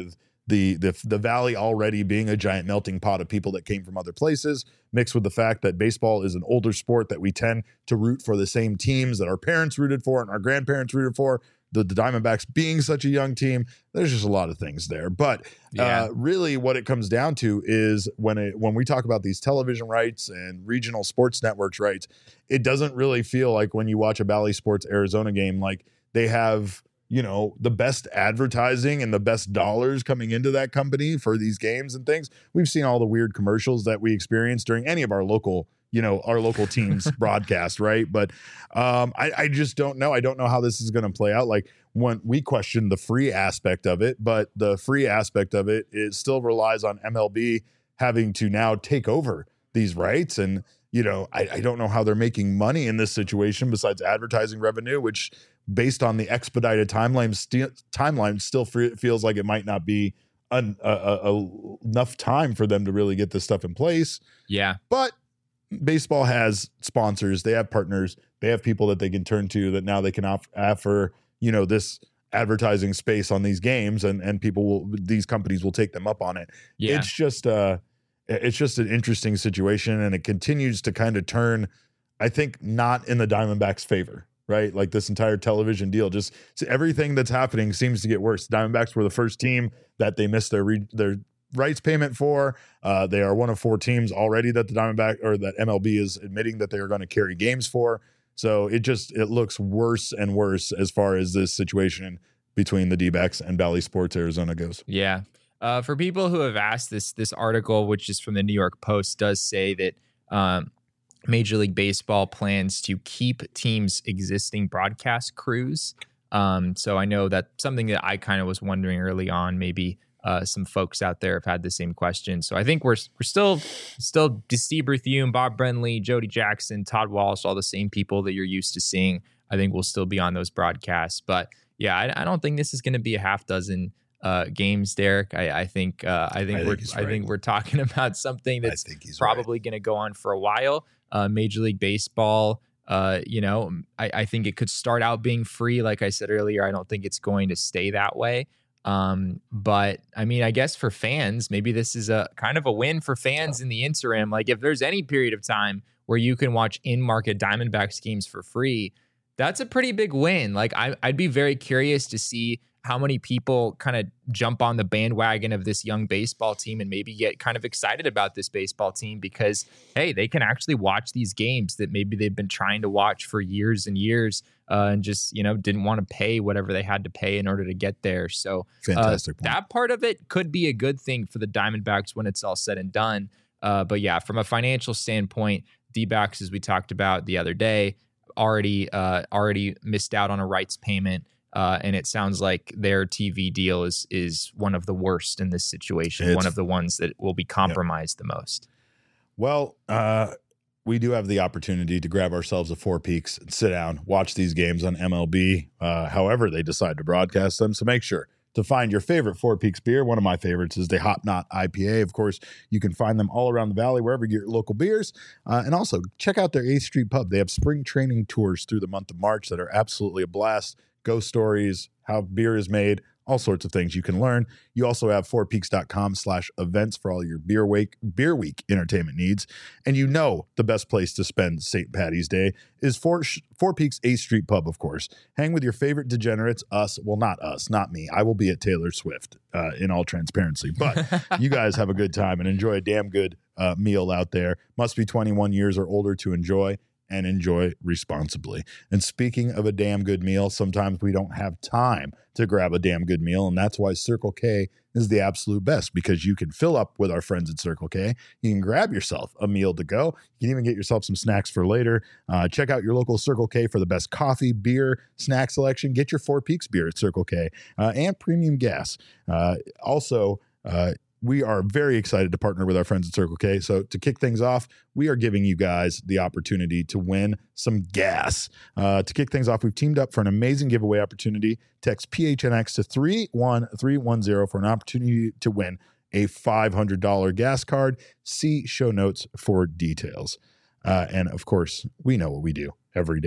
the the the Valley already being a giant melting pot of people that came from other places, mixed with the fact that baseball is an older sport that we tend to root for the same teams that our parents rooted for and our grandparents rooted for. The, the Diamondbacks being such a young team, there's just a lot of things there. But Yeah. uh, really, what it comes down to is when it when we talk about these television rights and regional sports networks rights, it doesn't really feel like when you watch a Valley Sports Arizona game, like they have, you know, the best advertising and the best dollars coming into that company for these games and things. We've seen all the weird commercials that we experience during any of our local, you know, our local teams broadcast, right? But um, I, I just don't know. I don't know how this is going to play out. Like when we question the free aspect of it, but the free aspect of it, it still relies on M L B having to now take over these rights. And, you know, I, I don't know how they're making money in this situation besides advertising revenue, which based on the expedited timeline, st- timeline still fe- feels like it might not be an, a, a, a, enough time for them to really get this stuff in place. Yeah. But baseball has sponsors, they have partners, they have people that they can turn to that now they can off- offer, you know, this advertising space on these games, and and people will, these companies will take them up on it. Yeah. It's just uh it's just an interesting situation, and it continues to kind of turn, I think, not in the Diamondbacks' favor, right? Like this entire television deal, just so everything that's happening seems to get worse. Diamondbacks were the first team that they missed their re- their rights payment for. Uh, they are one of four teams already that the Diamondback or that M L B is admitting that they are going to carry games for. So it just it looks worse and worse as far as this situation between the D-backs and Valley Sports Arizona goes. Yeah. Uh, for people who have asked, this this article, which is from the New York Post, does say that um, Major League Baseball plans to keep teams' existing broadcast crews. Um, so I know that's something that I kind of was wondering early on. Maybe uh, some folks out there have had the same question. So I think we're we're still still Steve Berthiaume, Bob Brenly, Jody Jackson, Todd Walsh, all the same people that you're used to seeing. I think we'll still be on those broadcasts. But yeah, I, I don't think this is going to be a half dozen uh, games, Derek. I, I think uh, I think I we're think I think we're talking about something that's I think he's probably right. going to go on for a while. Uh, Major League Baseball. Uh, you know, I, I think it could start out being free. Like I said earlier, I don't think it's going to stay that way. Um, but I mean, I guess for fans, maybe this is a kind of a win for fans in the interim. Like if there's any period of time where you can watch in-market Diamondbacks games for free, that's a pretty big win. Like I, I'd be very curious to see how many people kind of jump on the bandwagon of this young baseball team and maybe get kind of excited about this baseball team because, hey, they can actually watch these games that maybe they've been trying to watch for years and years uh, and just, you know, didn't want to pay whatever they had to pay in order to get there. So Fantastic uh, point. that part of it could be a good thing for the Diamondbacks when it's all said and done. Uh, but yeah, from a financial standpoint, D-backs, as we talked about the other day, already uh, already missed out on a rights payment. Uh, and it sounds like their T V deal is is one of the worst in this situation, It's- one of the ones that will be compromised the most. Well, uh, we do have the opportunity to grab ourselves a Four Peaks and sit down, watch these games on M L B, uh, however they decide to broadcast them. So make sure to find your favorite Four Peaks beer. One of my favorites is the Hop Knot I P A. Of course, you can find them all around the valley, wherever you get your local beers. Uh, and also, check out their eighth Street Pub. They have spring training tours through the month of March that are absolutely a blast. Ghost stories, how beer is made, all sorts of things you can learn. You also have four peaks dot com slash events for all your beer week, beer week entertainment needs. And you know the best place to spend Saint Patty's Day is Four, Four Peaks eighth Street Pub, of course. Hang with your favorite degenerates, us. Well, not us, not me. I will be at Taylor Swift uh, in all transparency. But you guys have a good time and enjoy a damn good uh, meal out there. Must be twenty-one years or older to enjoy. And enjoy responsibly. And speaking of a damn good meal, sometimes we don't have time to grab a damn good meal. And that's why Circle K is the absolute best, because you can fill up with our friends at Circle K. You can grab yourself a meal to go. You can even get yourself some snacks for later. Uh, check out your local Circle K for the best coffee, beer, snack selection. Get your Four Peaks beer at Circle K uh, and premium gas. Uh, also, uh, we are very excited to partner with our friends at Circle K. So to kick things off, we are giving you guys the opportunity to win some gas. Uh, to kick things off, we've teamed up for an amazing giveaway opportunity. Text P H N X to three one three one zero for an opportunity to win a five hundred dollars gas card. See show notes for details. Uh, and of course, we know what we do every day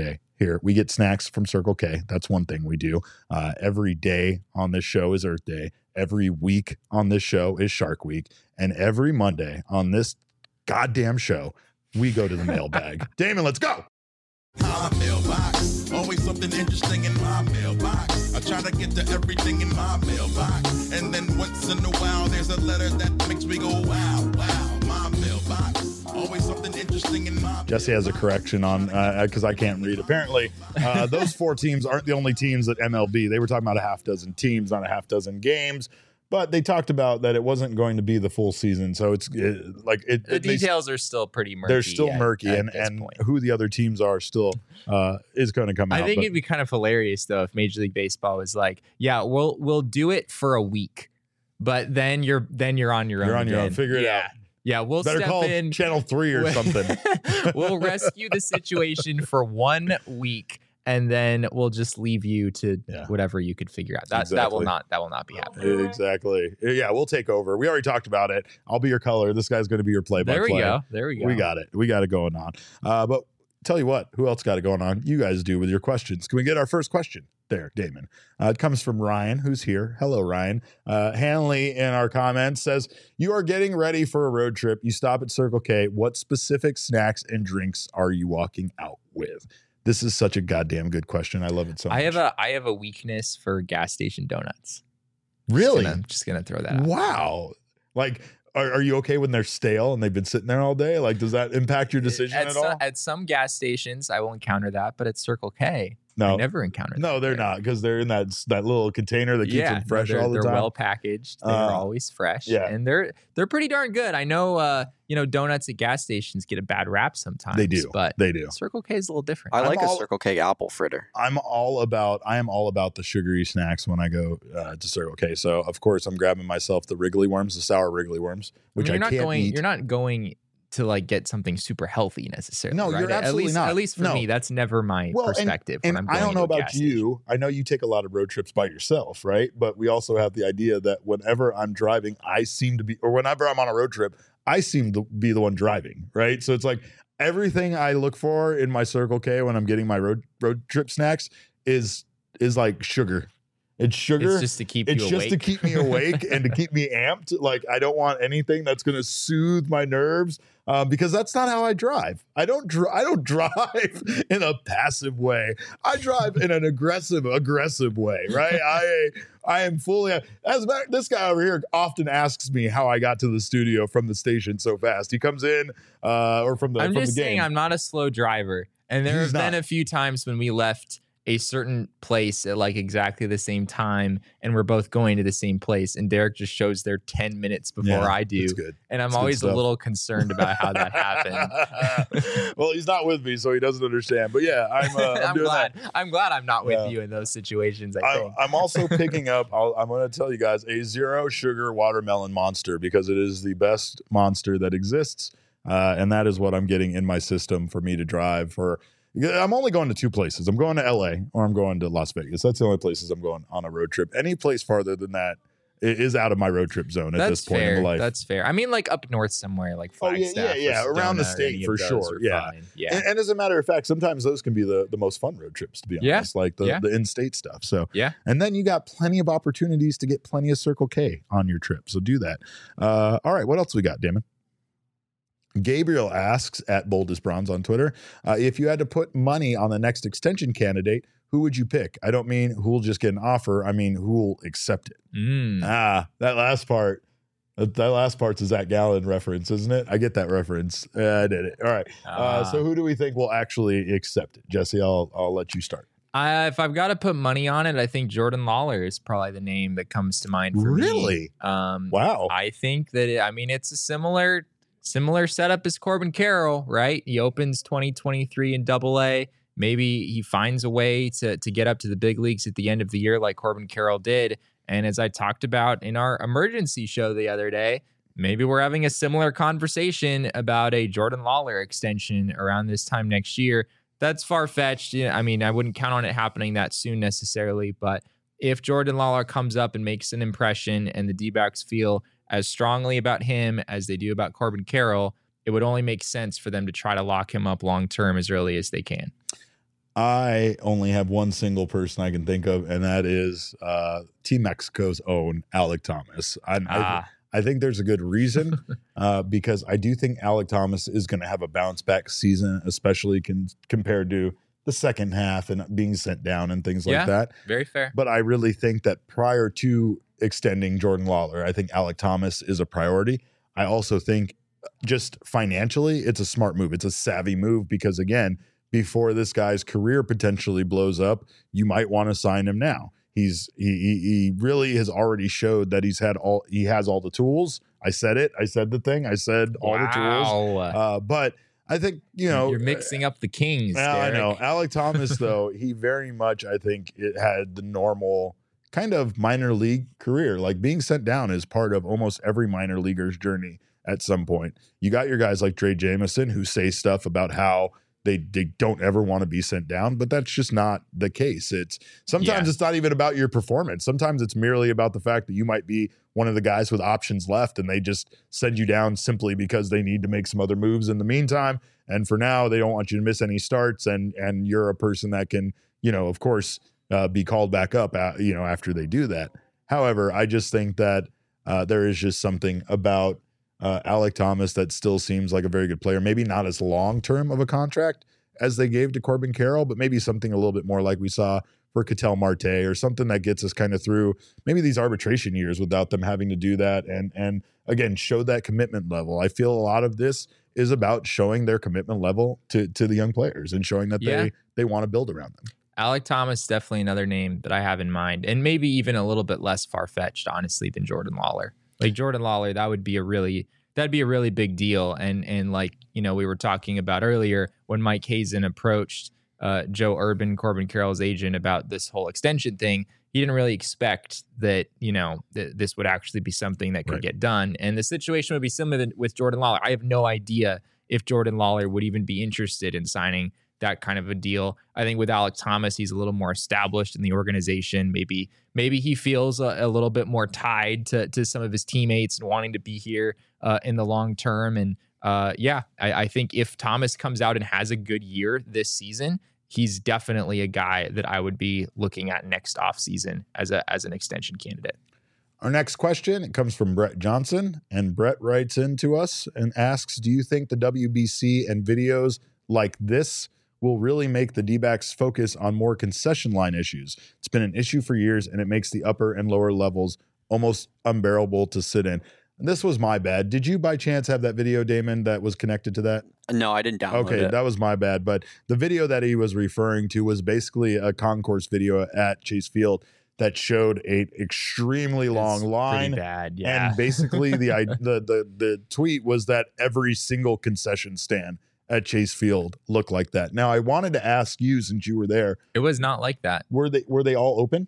here. We get snacks from Circle K. That's one thing we do. Uh, every day on this show is Earth Day. Every week on this show is Shark Week. And every Monday on this goddamn show, we go to the mailbag. Damon, let's go. My mailbox, always something interesting in my mailbox. I try to get to everything in my mailbox, and then once in a while there's a letter that makes me go wow, wow. My mailbox, always something interesting in my Jesse has a correction on because uh, I can't read. Apparently, uh, those four teams aren't the only teams at M L B. They were talking about a half dozen teams, not a half dozen games. But they talked about that it wasn't going to be the full season, so it's it, like it. The it, they, details are still pretty murky. They're still at, murky, at and and point. who the other teams are still uh, is going to come out. I think but, it'd be kind of hilarious though if Major League Baseball was like, "Yeah, we'll we'll do it for a week, but then you're then you're on your you're own. on your again. own. Figure it yeah. out. Yeah, we'll Better step call in. Channel Three or something. We'll rescue the situation for one week, and then we'll just leave you to Yeah. whatever you could figure out. That Exactly. that will not that will not be happening. Exactly. Yeah, we'll take over. We already talked about it. I'll be your color. This guy's going to be your play-by-play. There we go. There we go. We got it. We got it going on. Uh, but tell you what, who else got it going on? You guys do with your questions. Can we get our first question there, Damon? Uh, it comes from Ryan, who's here. Hello, Ryan. Uh, Hanley in our comments says, you are getting ready for a road trip. You stop at Circle K. What specific snacks and drinks are you walking out with? This is such a goddamn good question. I love it so much. I have a I have a weakness for gas station donuts. Really? I'm just gonna throw that out. Wow. Like, are, are you okay when they're stale and they've been sitting there all day? Like, does that impact your decision at, at so- all? At some gas stations, I will encounter that, but at Circle K, No. I never encounter that. No, they're not, because they're in that that little container that keeps yeah, them fresh no, they're, all the they're time. well packaged. They're Uh, always fresh. yeah. And they're they're pretty darn good. I know uh, you know, donuts at gas stations get a bad rap sometimes. They do. But They do. Circle K is a little different. I I'm like all- a Circle K apple fritter. I'm all about I am all about the sugary snacks when I go uh, to Circle K. So of course I'm grabbing myself the Wrigley worms, the sour Wrigley worms, which I I, mean, you're not can't going eat. you're not going to like get something super healthy necessarily. No, you're right? At absolutely least, not. At least for No. me, that's never my Well, and- perspective. And when I'm I going don't know to a about gas station. you. I know you take a lot of road trips by yourself, right? But we also have the idea that whenever I'm driving, I seem to be, or whenever I'm on a road trip, I seem to be the one driving, right? So it's like everything I look for in my Circle K when I'm getting my road road trip snacks is is like sugar. It's sugar. It's just to keep It's you just awake. to keep me awake and to keep me amped. Like, I don't want anything that's going to soothe my nerves, uh, because that's not how I drive. I don't. Dr- I don't drive in a passive way. I drive in an aggressive, aggressive way. Right. I I am fully. As a matter, this guy over here often asks me how I got to the studio from the station so fast. He comes in, uh, or from the. I'm from just the game. saying I'm not a slow driver. And there He's have been not. a few times when we left a certain place at like exactly the same time and we're both going to the same place and Derek just shows there ten minutes before Yeah, I do. it's good. And I'm It's good always a stuff. little concerned about how that happened. Well, he's not with me, so he doesn't understand. But yeah, I'm. Uh, I'm, I'm doing glad. that. I'm glad I'm not with Yeah. you in those situations, I I, think. I'm also picking up, I'll, I'm going to tell you guys, a zero sugar watermelon monster because it is the best monster that exists. Uh, and that is what I'm getting in my system for me to drive for. I'm only going to two places. I'm going to L A or I'm going to Las Vegas. That's the only places I'm going on a road trip. Any place farther than that i- is out of my road trip zone at That's this point fair. in my life. That's fair. I mean, like up north somewhere, like Oh, yeah, Flagstaff. yeah, yeah, or around the Sedona or state any for of those sure, are yeah. fine. Yeah. And, and as a matter of fact, sometimes those can be the, the most fun road trips, to be Yeah, honest, like the, yeah. the in-state stuff. So, Yeah. and then you got plenty of opportunities to get plenty of Circle K on your trip. So do that. Uh, all right, what else we got, Damon? Gabriel asks at Boldest Bronze on Twitter, uh, if you had to put money on the next extension candidate, who would you pick? I don't mean who will just get an offer. I mean, who will accept it? Mm. Ah, that last part. That that last part's a Zach Gallen reference, isn't it? I get that reference. Uh, I did it. All right. Uh, Ah. so who do we think will actually accept it? Jesse, I'll I'll let you start. I, if I've got to put money on it, I think Jordan Lawler is probably the name that comes to mind for me. Really? Um, Wow. I think that it, I mean it's a similar similar setup as Corbin Carroll, right? He opens twenty twenty-three in Double A. Maybe he finds a way to to get up to the big leagues at the end of the year, like Corbin Carroll did. And as I talked about in our emergency show the other day, maybe we're having a similar conversation about a Jordan Lawler extension around this time next year. That's far-fetched. Yeah, I mean, I wouldn't count on it happening that soon necessarily, but if Jordan Lawler comes up and makes an impression and the D-backs feel as strongly about him as they do about Corbin Carroll, it would only make sense for them to try to lock him up long-term as early as they can. I only have one single person I can think of, and that is uh, Team Mexico's own Alec Thomas. I, Ah. I, I think there's a good reason uh, because I do think Alec Thomas is going to have a bounce back season, especially con- compared to the second half and being sent down and things Yeah. like that. Very fair. But I really think that prior to extending Jordan Lawler, I think Alec Thomas is a priority. I also think just financially, it's a smart move. It's a savvy move because, again, before this guy's career potentially blows up, you might want to sign him now. He's he, he he really has already showed that he's had all he has all the tools. I said it. I said the thing. I said all the tools. Wow. Uh, but I think you know You're mixing up the Kings. Well, I Derek. know Alec Thomas though. He very much I think it had the normal kind of minor league career. Like being sent down is part of almost every minor leaguer's journey at some point. You got your guys like Trey Jameson who say stuff about how They, they don't ever want to be sent down, but that's just not the case. It's sometimes Yeah. it's not even about your performance. Sometimes it's merely about the fact that you might be one of the guys with options left and they just send you down simply because they need to make some other moves in the meantime. And for now, they don't want you to miss any starts. And and you're a person that can, you know, of course, uh, be called back up, uh, you know, after they do that. However, I just think that uh, there is just something about Uh, Alec Thomas that still seems like a very good player. Maybe not as long-term of a contract as they gave to Corbin Carroll, but maybe something a little bit more like we saw for Ketel Marte or something that gets us kind of through maybe these arbitration years without them having to do that. And, and again, show that commitment level. I feel a lot of this is about showing their commitment level to, to the young players and showing that Yeah. they, they want to build around them. Alec Thomas, definitely another name that I have in mind, and maybe even a little bit less far-fetched, honestly, than Jordan Lawler. Like Jordan Lawler, that would be a really that'd be a really big deal. And and like you know we were talking about earlier when Mike Hazen approached uh, Joe Urban, Corbin Carroll's agent, about this whole extension thing. He didn't really expect that you know th- this would actually be something that could Right. get done. And the situation would be similar with Jordan Lawler. I have no idea if Jordan Lawler would even be interested in signing that kind of a deal. I think with Alec Thomas, he's a little more established in the organization. Maybe maybe he feels a, a little bit more tied to to some of his teammates and wanting to be here uh, in the long term. And uh, yeah, I, I think if Thomas comes out and has a good year this season, he's definitely a guy that I would be looking at next offseason as a as an extension candidate. Our next question, it comes from Brett Johnson, and Brett writes into us and asks, do you think the W B C and videos like this will really make the D-backs focus on more concession line issues? It's been an issue for years, and it makes the upper and lower levels almost unbearable to sit in. And this was my bad. Did you by chance have that video, Damon, that was connected to that? No, I didn't download Okay, it. that was my bad. But the video that he was referring to was basically a concourse video at Chase Field that showed a extremely long It's line. pretty bad, yeah. And basically the, I- the the the tweet was that every single concession stand at Chase Field looked like that. Now I wanted to ask you, since you were there, It was not like that. were they were they all open?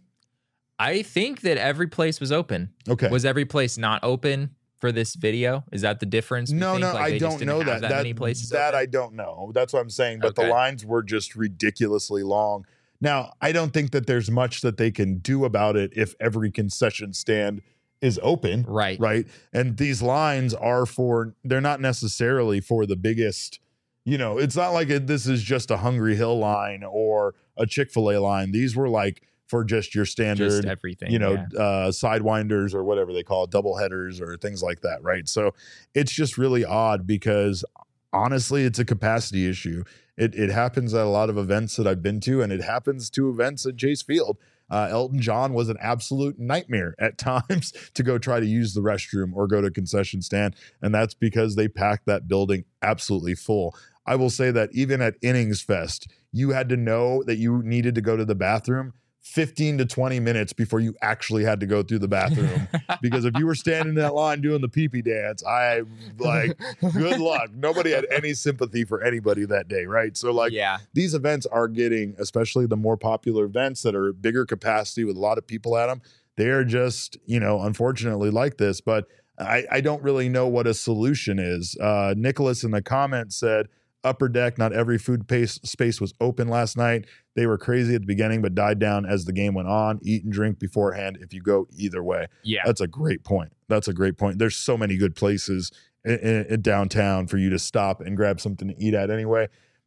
I think that every place was open. Okay. Was every place not open for this video? Is that the difference? we No, think? no, Like, I they just don't didn't know have that. that many places that open? I don't know. That's what I'm saying. But the Okay. lines were just ridiculously long. Now, I don't think that there's much that they can do about it if every concession stand is open. Right. Right. And these lines are for, they're not necessarily for the biggest, you know, it's not like it, this is just a Hungry Hill line or a Chick-fil-A line. These were like for just your standard, Just everything, you know, yeah. uh, sidewinders or whatever they call it, double headers or things like that. Right. So it's just really odd because honestly, it's a capacity issue. It, it happens at a lot of events that I've been to, and it happens to events at Chase Field. Uh, Elton John was an absolute nightmare at times to go try to use the restroom or go to concession stand. And that's because they packed that building absolutely full. I will say that even at Innings Fest, you had to know that you needed to go to the bathroom fifteen to twenty minutes before you actually had to go through the bathroom. Because if you were standing in that line doing the pee-pee dance, I like, good luck. Nobody had any sympathy for anybody that day, right? So like Yeah. these events are getting, especially the more popular events that are bigger capacity with a lot of people at them, they are just, you know, unfortunately like this. But I, I don't really know what a solution is. Uh, Nicholas in the comments said, upper deck, not every food pace, space was open last night. They were crazy at the beginning, but died down as the game went on. Eat and drink beforehand if you go either way. Yeah. That's a great point. That's a great point. There's so many good places in, in, in downtown for you to stop and grab something to eat at anyway.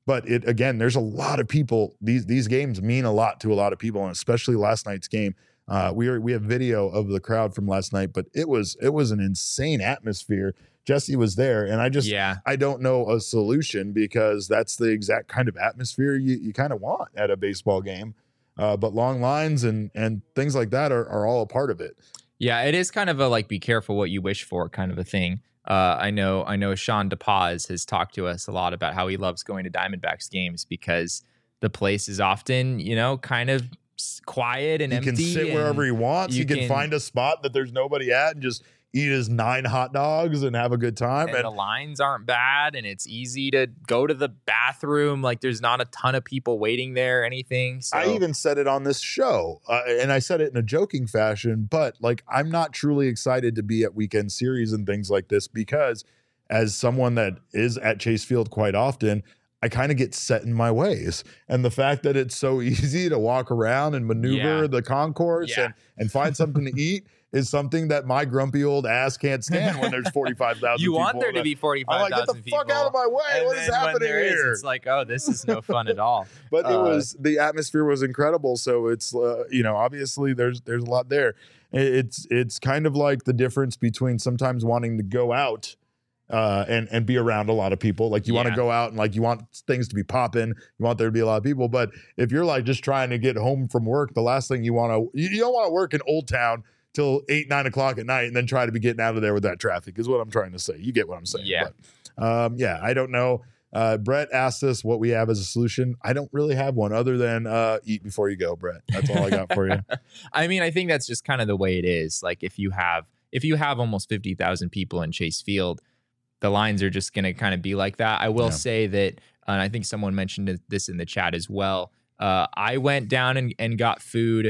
But it again, there's a lot of people. These these games mean a lot to a lot of people, and especially last night's game. Uh, we are, we have video of the crowd from last night, but it was it was an insane atmosphere. Jesse was there, and I just yeah. I don't know a solution because that's the exact kind of atmosphere you, you kind of want at a baseball game. Uh, but long lines and and things like that are, are all a part of it. Yeah, it is kind of a like be careful what you wish for kind of a thing. Uh, I know I know Sean DePaz has talked to us a lot about how he loves going to Diamondbacks games because the place is often, you know, kind of quiet and he empty. He can sit wherever he wants. He can, can find a spot that there's nobody at and just eat his nine hot dogs and have a good time. And, and the lines aren't bad, and it's easy to go to the bathroom. Like there's not a ton of people waiting there or anything. So. I even said it on this show, uh, and I said it in a joking fashion, but like I'm not truly excited to be at weekend series and things like this because as someone that is at Chase Field quite often, I kind of get set in my ways. And the fact that it's so easy to walk around and maneuver yeah. the concourse yeah. and, and find something to eat is something that my grumpy old ass can't stand when there's forty-five thousand you people. want there to be forty-five thousand like, get the people. fuck out of my way. And what is happening there here? Is, it's like, oh, this is no fun at all. But uh, it was, the atmosphere was incredible. So it's, uh, you know, obviously there's, there's a lot there. It's, it's kind of like the difference between sometimes wanting to go out uh, and, and be around a lot of people. Like you yeah. want to go out and like you want things to be popping. You want there to be a lot of people. But if you're like just trying to get home from work, the last thing you want to, you, you don't want to work in Old Town till eight, nine o'clock at night and then try to be getting out of there with that traffic is what I'm trying to say. You get what I'm saying. Yeah. But, um, yeah, I don't know. Uh, Brett asked us what we have as a solution. I don't really have one other than uh, eat before you go, Brett. That's all I got for you. I mean, I think that's just kind of the way it is. Like if you have, if you have almost fifty thousand people in Chase Field, the lines are just going to kind of be like that. I will yeah. say that, uh, and I think someone mentioned this in the chat as well. Uh, I went down and, and got food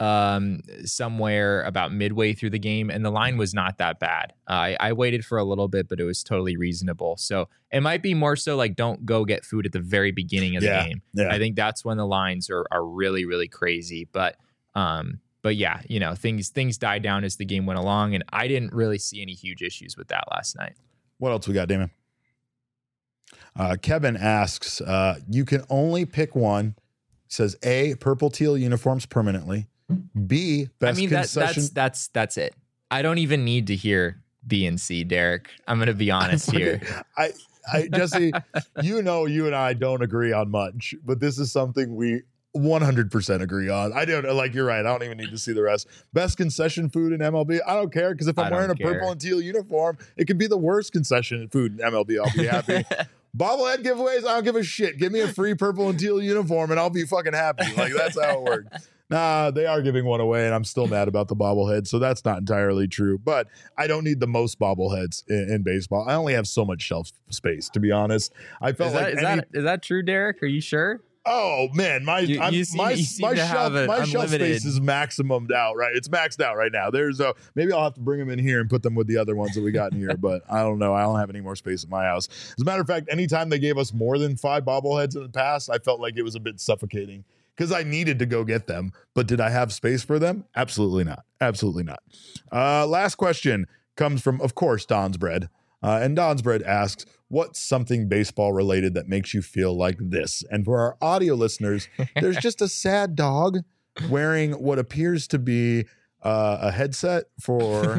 um somewhere about midway through the game, and the line was not that bad. uh, I, I waited for a little bit, but it was totally reasonable. So it might be more so like don't go get food at the very beginning of yeah, the game. yeah. I think that's when the lines are are really really crazy. But um but yeah, you know, things things died down as the game went along, and I didn't really see any huge issues with that last night. What else we got, Damon? Uh, Kevin asks, uh, you can only pick one. Says A, purple teal uniforms permanently. B, best I mean, that, concession. that's that's that's it. I don't even need to hear B and C, Derek. I'm going to be honest here. I, I, Jesse, you know, you and I don't agree on much, but this is something we one hundred percent agree on. I don't like. You're right. I don't even need to see the rest. Best concession food in M L B. I don't care because if I'm wearing a care. purple and teal uniform, it could be the worst concession food in M L B. I'll be happy. Bobblehead giveaways, I don't give a shit. Give me a free purple and teal uniform and I'll be fucking happy. Like, that's how it works. Nah, they are giving one away and I'm still mad about the bobblehead, so that's not entirely true. But I don't need the most bobbleheads in, in baseball. I only have so much shelf space, to be honest. I felt is that, like is, any, that, is that true, Derek? Are you sure? Oh man, my you, I'm, you seem, my you seem my to shelf have my shelf unlimited... space is maximumed out, right? It's maxed out right now. There's a maybe I'll have to bring them in here and put them with the other ones that we got in here, but I don't know. I don't have any more space at my house. As a matter of fact, anytime they gave us more than five bobbleheads in the past, I felt like it was a bit suffocating because I needed to go get them. But did I have space for them? Absolutely not. Absolutely not. Uh, last question comes from, of course, Don's Bread. Uh, and Don's Bread asks, what's something baseball related that makes you feel like this? And for our audio listeners, there's just a sad dog wearing what appears to be uh, a headset for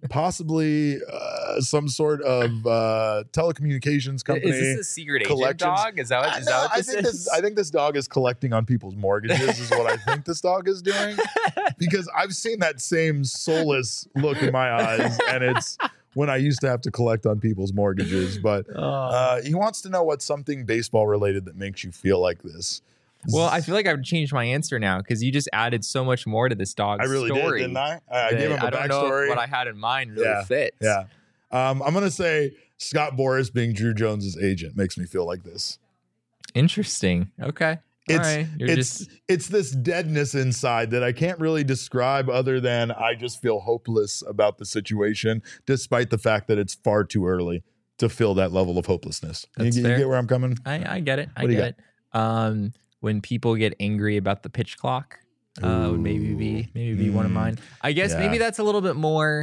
possibly uh, some sort of uh, telecommunications company. Is this a secret agent dog? Is that what, is I, that what I this think is? This, I think this dog is collecting on people's mortgages is what I think this dog is doing. Because I've seen that same soulless look in my eyes, and it's when I used to have to collect on people's mortgages. But uh, he wants to know what's something baseball related that makes you feel like this. Well, I feel like I've changed my answer now because you just added so much more to this dog's I really story. did, didn't I? I, I gave him a I don't backstory. know if what I had in mind really yeah, fits. Yeah. Um, I'm going to say Scott Boras being Drew Jones's agent makes me feel like this. Interesting. Okay. It's, All right. You're it's, just... it's this deadness inside that I can't really describe other than I just feel hopeless about the situation, despite the fact that it's far too early to feel that level of hopelessness. You, That's you fair. get where I'm coming? I, I get it. I What do you get it. Um, when people get angry about the pitch clock, uh, would maybe be maybe be one of mine. I guess Yeah. maybe that's a little bit more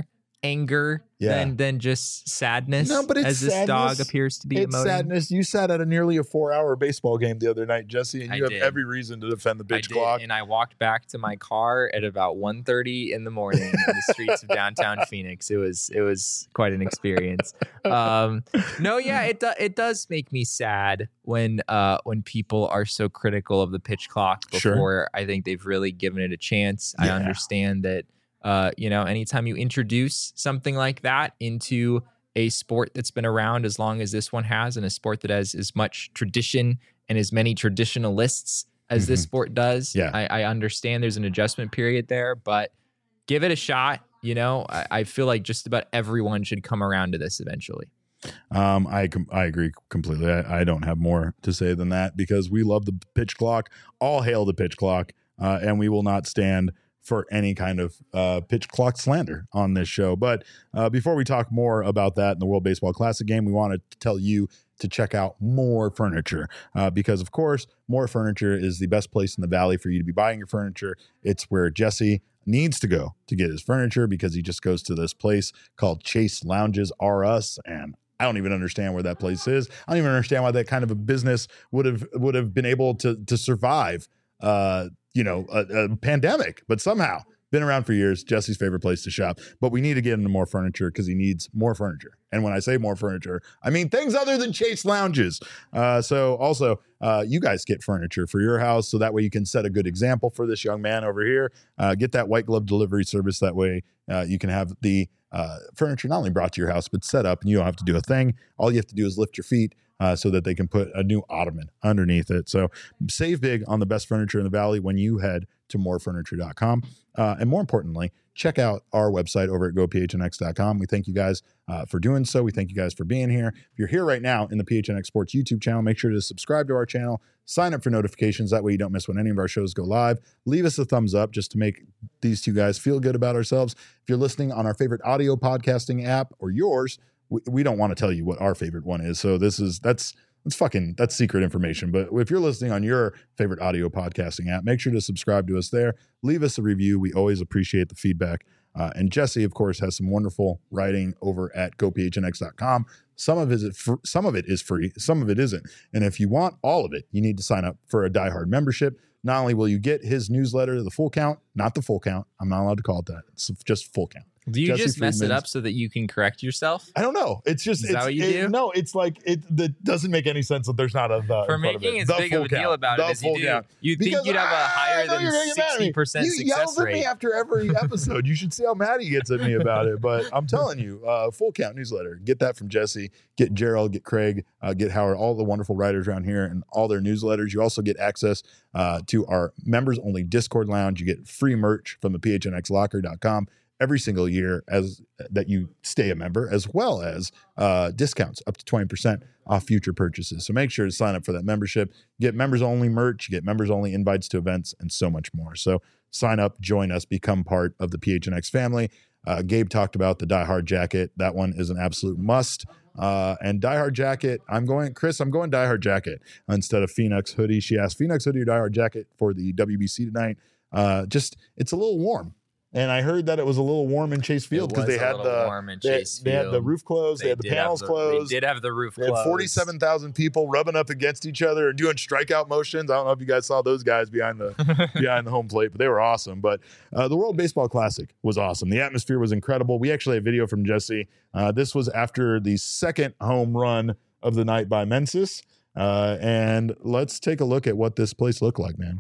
anger Yeah. than than just sadness. No, but it's as this sadness. dog appears to be It's emoting. sadness. You sat at a nearly a four-hour baseball game the other night, Jesse, and I you have did. every reason to defend the I pitch did, clock. and I walked back to my car at about one thirty in the morning in the streets of downtown Phoenix. It was it was quite an experience. Um, no, yeah, it do, it does make me sad when uh, when people are so critical of the pitch clock before Sure. I think they've really given it a chance. I Yeah. understand that uh, you know, anytime you introduce something like that into a sport that's been around as long as this one has, and a sport that has as much tradition and as many traditionalists as this Mhm. sport does. Yeah. I, I understand there's an adjustment period there, but give it a shot. You know, I, I feel like just about everyone should come around to this eventually. Um, I com- I agree completely. I, I don't have more to say than that because we love the pitch clock. All hail the pitch clock, uh, and we will not stand for any kind of uh, pitch clock slander on this show. But uh, before we talk more about that in the World Baseball Classic game, we want to tell you to check out More Furniture uh, because, of course, More Furniture is the best place in the Valley for you to be buying your furniture. It's where Jesse needs to go to get his furniture because he just goes to this place called Chase Lounges R Us, and I don't even understand where that place is. I don't even understand why that kind of a business would have would have been able to to survive uh, you know, a, a pandemic, but somehow been around for years. Jesse's favorite place to shop, but we need to get into More Furniture because he needs more furniture. And when I say more furniture, I mean things other than Chase Lounges. Uh, so also, uh, you guys get furniture for your house, so that way you can set a good example for this young man over here. Uh, get that white glove delivery service. That way uh, you can have the uh, furniture not only brought to your house, but set up, and you don't have to do a thing. All you have to do is lift your feet. Uh, so that they can put a new ottoman underneath it. So save big on the best furniture in the Valley when you head to more furniture dot com. Uh, and more importantly, check out our website over at go p h n x dot com. We thank you guys uh, for doing so. We thank you guys for being here. If you're here right now in the P H N X Sports YouTube channel, make sure to subscribe to our channel, sign up for notifications. That way you don't miss when any of our shows go live. Leave us a thumbs up just to make these two guys feel good about ourselves. If you're listening on our favorite audio podcasting app or yours, we, we don't want to tell you what our favorite one is. So this is, that's, that's fucking, that's secret information. But if you're listening on your favorite audio podcasting app, make sure to subscribe to us there. Leave us a review. We always appreciate the feedback. Uh, and Jesse, of course, has some wonderful writing over at go p h n x dot com. Some of it is fr- some of it is free, some of it isn't. And if you want all of it, you need to sign up for a Die Hard membership. Not only will you get his newsletter, The Full Count, not The Full Count. I'm not allowed to call it that. It's just Full Count. Do you Jesse just mess it Friedman's- up so that you can correct yourself? I don't know. It's just Is it's, that what you it- do? No, it's like it that doesn't make any sense that there's not a the For in front of making it. as The big of full a deal count. about The it as you full do, count. you'd think Because you'd have a I higher know than you're gonna get mad at me. sixty percent You success yells at rate. me after every episode. You should see how mad he gets at me about it. But I'm telling you, uh, Full Count newsletter. Get that from Jesse. Get Gerald. Get Craig. Uh, get Howard. All the wonderful writers around here and all their newsletters. You also get access uh, to our members only Discord lounge. You get free merch from the p h n x locker dot com every single year as that you stay a member, as well as uh, discounts up to twenty percent off future purchases. So make sure to sign up for that membership. You get members only merch, you get members only invites to events, and so much more. So sign up, join us, become part of the P H N X family. Uh, Gabe talked about the Die Hard jacket. That one is an absolute must. Uh, and Die Hard jacket, I'm going, Chris, I'm going Die Hard jacket instead of Phoenix hoodie. She asked Phoenix hoodie or Die Hard jacket for the W B C tonight. Uh, just, it's a little warm. And I heard that it was a little warm in Chase Field because they was a had little the warm in they, Chase they had the Field. roof closed, they, had the did have panels the- closed. They did have the roof They closed. had forty-seven thousand people rubbing up against each other and doing strikeout motions. I don't know if you guys saw those guys behind the behind the home plate, but they were awesome. But uh, the World Baseball Classic was awesome. The atmosphere was incredible. We actually have video from Jesse. Uh, this was after the second home run of the night by Mensis. Uh, and let's take a look at what this place looked like, man.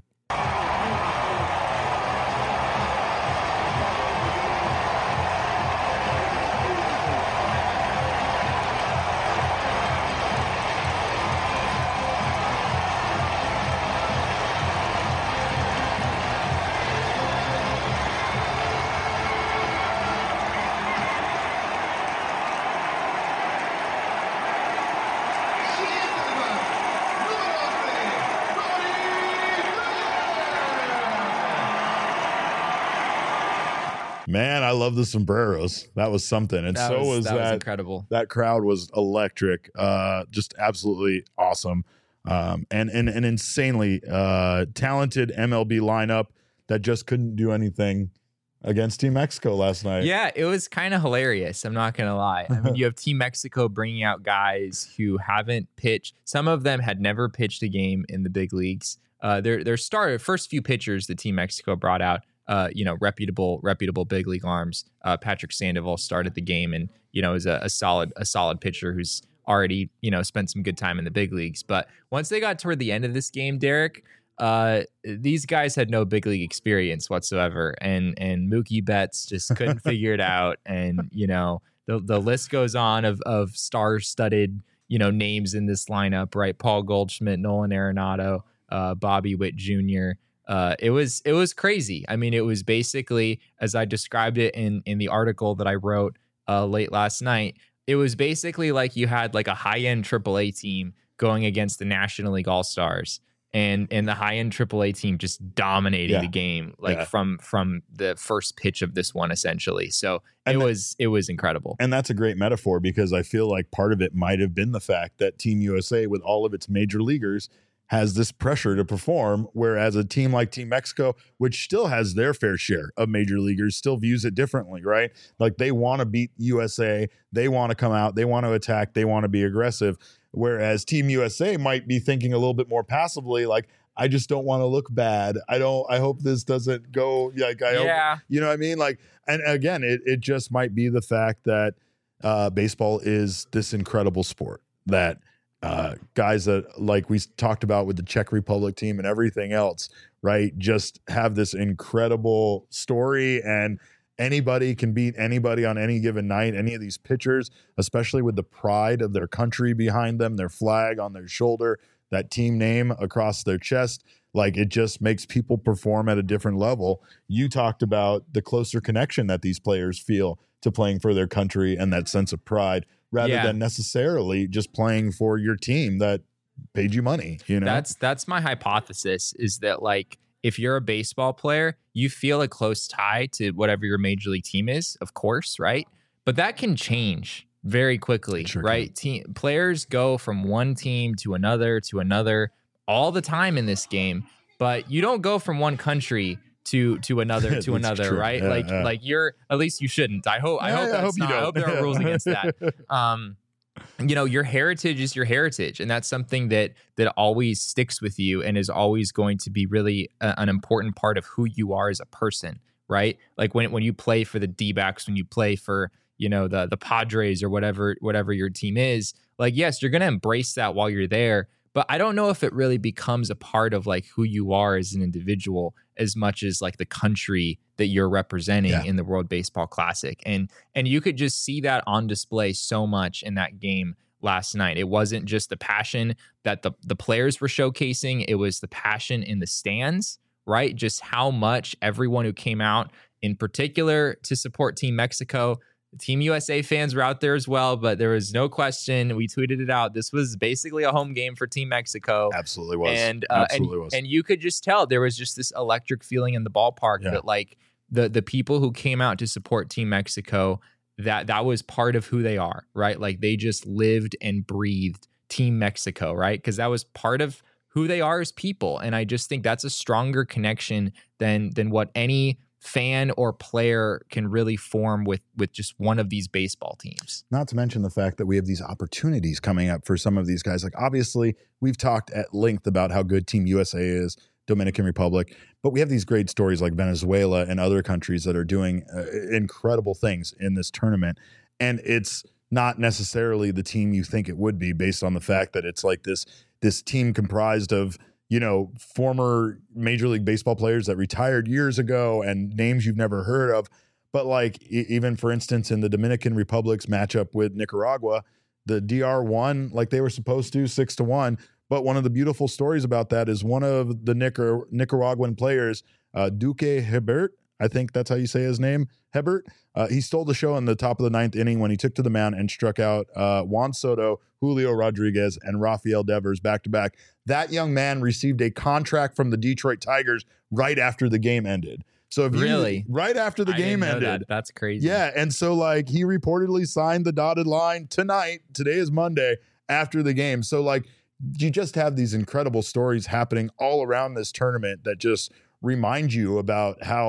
Man, I love the sombreros. That was something. And That so was, was that that. was incredible. That crowd was electric. Uh, just absolutely awesome. Um, and, and an insanely uh, talented M L B lineup that just couldn't do anything against Team Mexico last night. Yeah, it was kind of hilarious. I'm not going to lie. I mean, you have Team Mexico bringing out guys who haven't pitched. Some of them had never pitched a game in the big leagues. Uh, their their start, first few pitchers that Team Mexico brought out, uh, you know, reputable reputable big league arms. Uh, Patrick Sandoval started the game, and you know, is a, a solid a solid pitcher who's already, you know, spent some good time in the big leagues. But once they got toward the end of this game, Derek, uh, these guys had no big league experience whatsoever. And and Mookie Betts just couldn't figure it out. And, you know, the the list goes on of of star-studded, you know, names in this lineup, right? Paul Goldschmidt, Nolan Arenado, uh, Bobby Witt Junior Uh, it was it was crazy. I mean, it was basically, as I described it in in the article that I wrote uh, late last night, it was basically like you had like a high-end triple A team going against the National League All-Stars, and and the high-end triple A team just dominating Yeah. the game, like Yeah. from from the first pitch of this one, essentially. So And it that- was it was incredible. And that's a great metaphor, because I feel like part of it might have been the fact that Team U S A, with all of its major leaguers, has this pressure to perform, whereas a team like Team Mexico, which still has their fair share of major leaguers, still views it differently, right? Like they want to beat U S A, they want to come out, they want to attack, they want to be aggressive, whereas Team U S A might be thinking a little bit more passively, like, I just don't want to look bad. I don't, I hope this doesn't go like, I hope, Yeah. you know what I mean? Like, and again, it, it just might be the fact that uh, baseball is this incredible sport that uh, guys that, like we talked about with the Czech Republic team and everything else, right, just have this incredible story, and anybody can beat anybody on any given night. Any of these pitchers, especially with the pride of their country behind them, their flag on their shoulder, that team name across their chest, like it just makes people perform at a different level. You talked about the closer connection that these players feel to playing for their country and that sense of pride, rather Yeah. than necessarily just playing for your team that paid you money, you know? That's that's my hypothesis, is that like if you're a baseball player, you feel a close tie to whatever your major league team is, of course, right? But that can change very quickly, It sure right? Team players go from one team to another to another all the time in this game, but you don't go from one country to to another to That's another, true. right? Yeah, like yeah. like you're, at least you shouldn't. I hope I Yeah, hope yeah, that's I hope you not, I don't. hope there are rules against that. Um you know, your heritage is your heritage, and that's something that that always sticks with you and is always going to be really a, an important part of who you are as a person, right? Like when when you play for the D-backs, when you play for, you know, the the Padres or whatever whatever your team is, like yes, you're going to embrace that while you're there, but I don't know if it really becomes a part of like who you are as an individual as much as like the country that you're representing Yeah. in the World Baseball Classic. And and you could just see that on display so much in that game last night. It wasn't just the passion that the, the players were showcasing, it was the passion in the stands, right? Just how much everyone who came out in particular to support Team Mexico. Team U S A fans were out there as well, but there was no question. We tweeted it out. This was basically a home game for Team Mexico. Absolutely was. And uh, Absolutely and, was. and you could just tell there was just this electric feeling in the ballpark Yeah. that like the the people who came out to support Team Mexico, that that was part of who they are, right? Like they just lived and breathed Team Mexico, right? Because that was part of who they are as people. And I just think that's a stronger connection than than what any fan or player can really form with with just one of these baseball teams. Not to mention the fact that we have these opportunities coming up for some of these guys. Like obviously we've talked at length about how good Team U S A is, Dominican Republic, but we have these great stories like Venezuela and other countries that are doing uh, incredible things in this tournament. And it's not necessarily the team you think it would be, based on the fact that it's like this, this team comprised of, you know, former Major League Baseball players that retired years ago and names you've never heard of. But like e- even for instance, in the Dominican Republic's matchup with Nicaragua, the D R won like they were supposed to, six to one. But one of the beautiful stories about that is one of the Nicar- Nicaraguan players, uh, Duque Hebert, I think that's how you say his name, Hebert. Uh, he stole the show in the top of the ninth inning when he took to the mound and struck out uh, Juan Soto, Julio Rodriguez, and Rafael Devers back to back. That young man received a contract from the Detroit Tigers right after the game ended. So if you, Really? right after the I game didn't know ended, that. That's crazy. yeah, and so like he reportedly signed the dotted line tonight. Today is Monday after the game. So like you just have these incredible stories happening all around this tournament that just remind you about how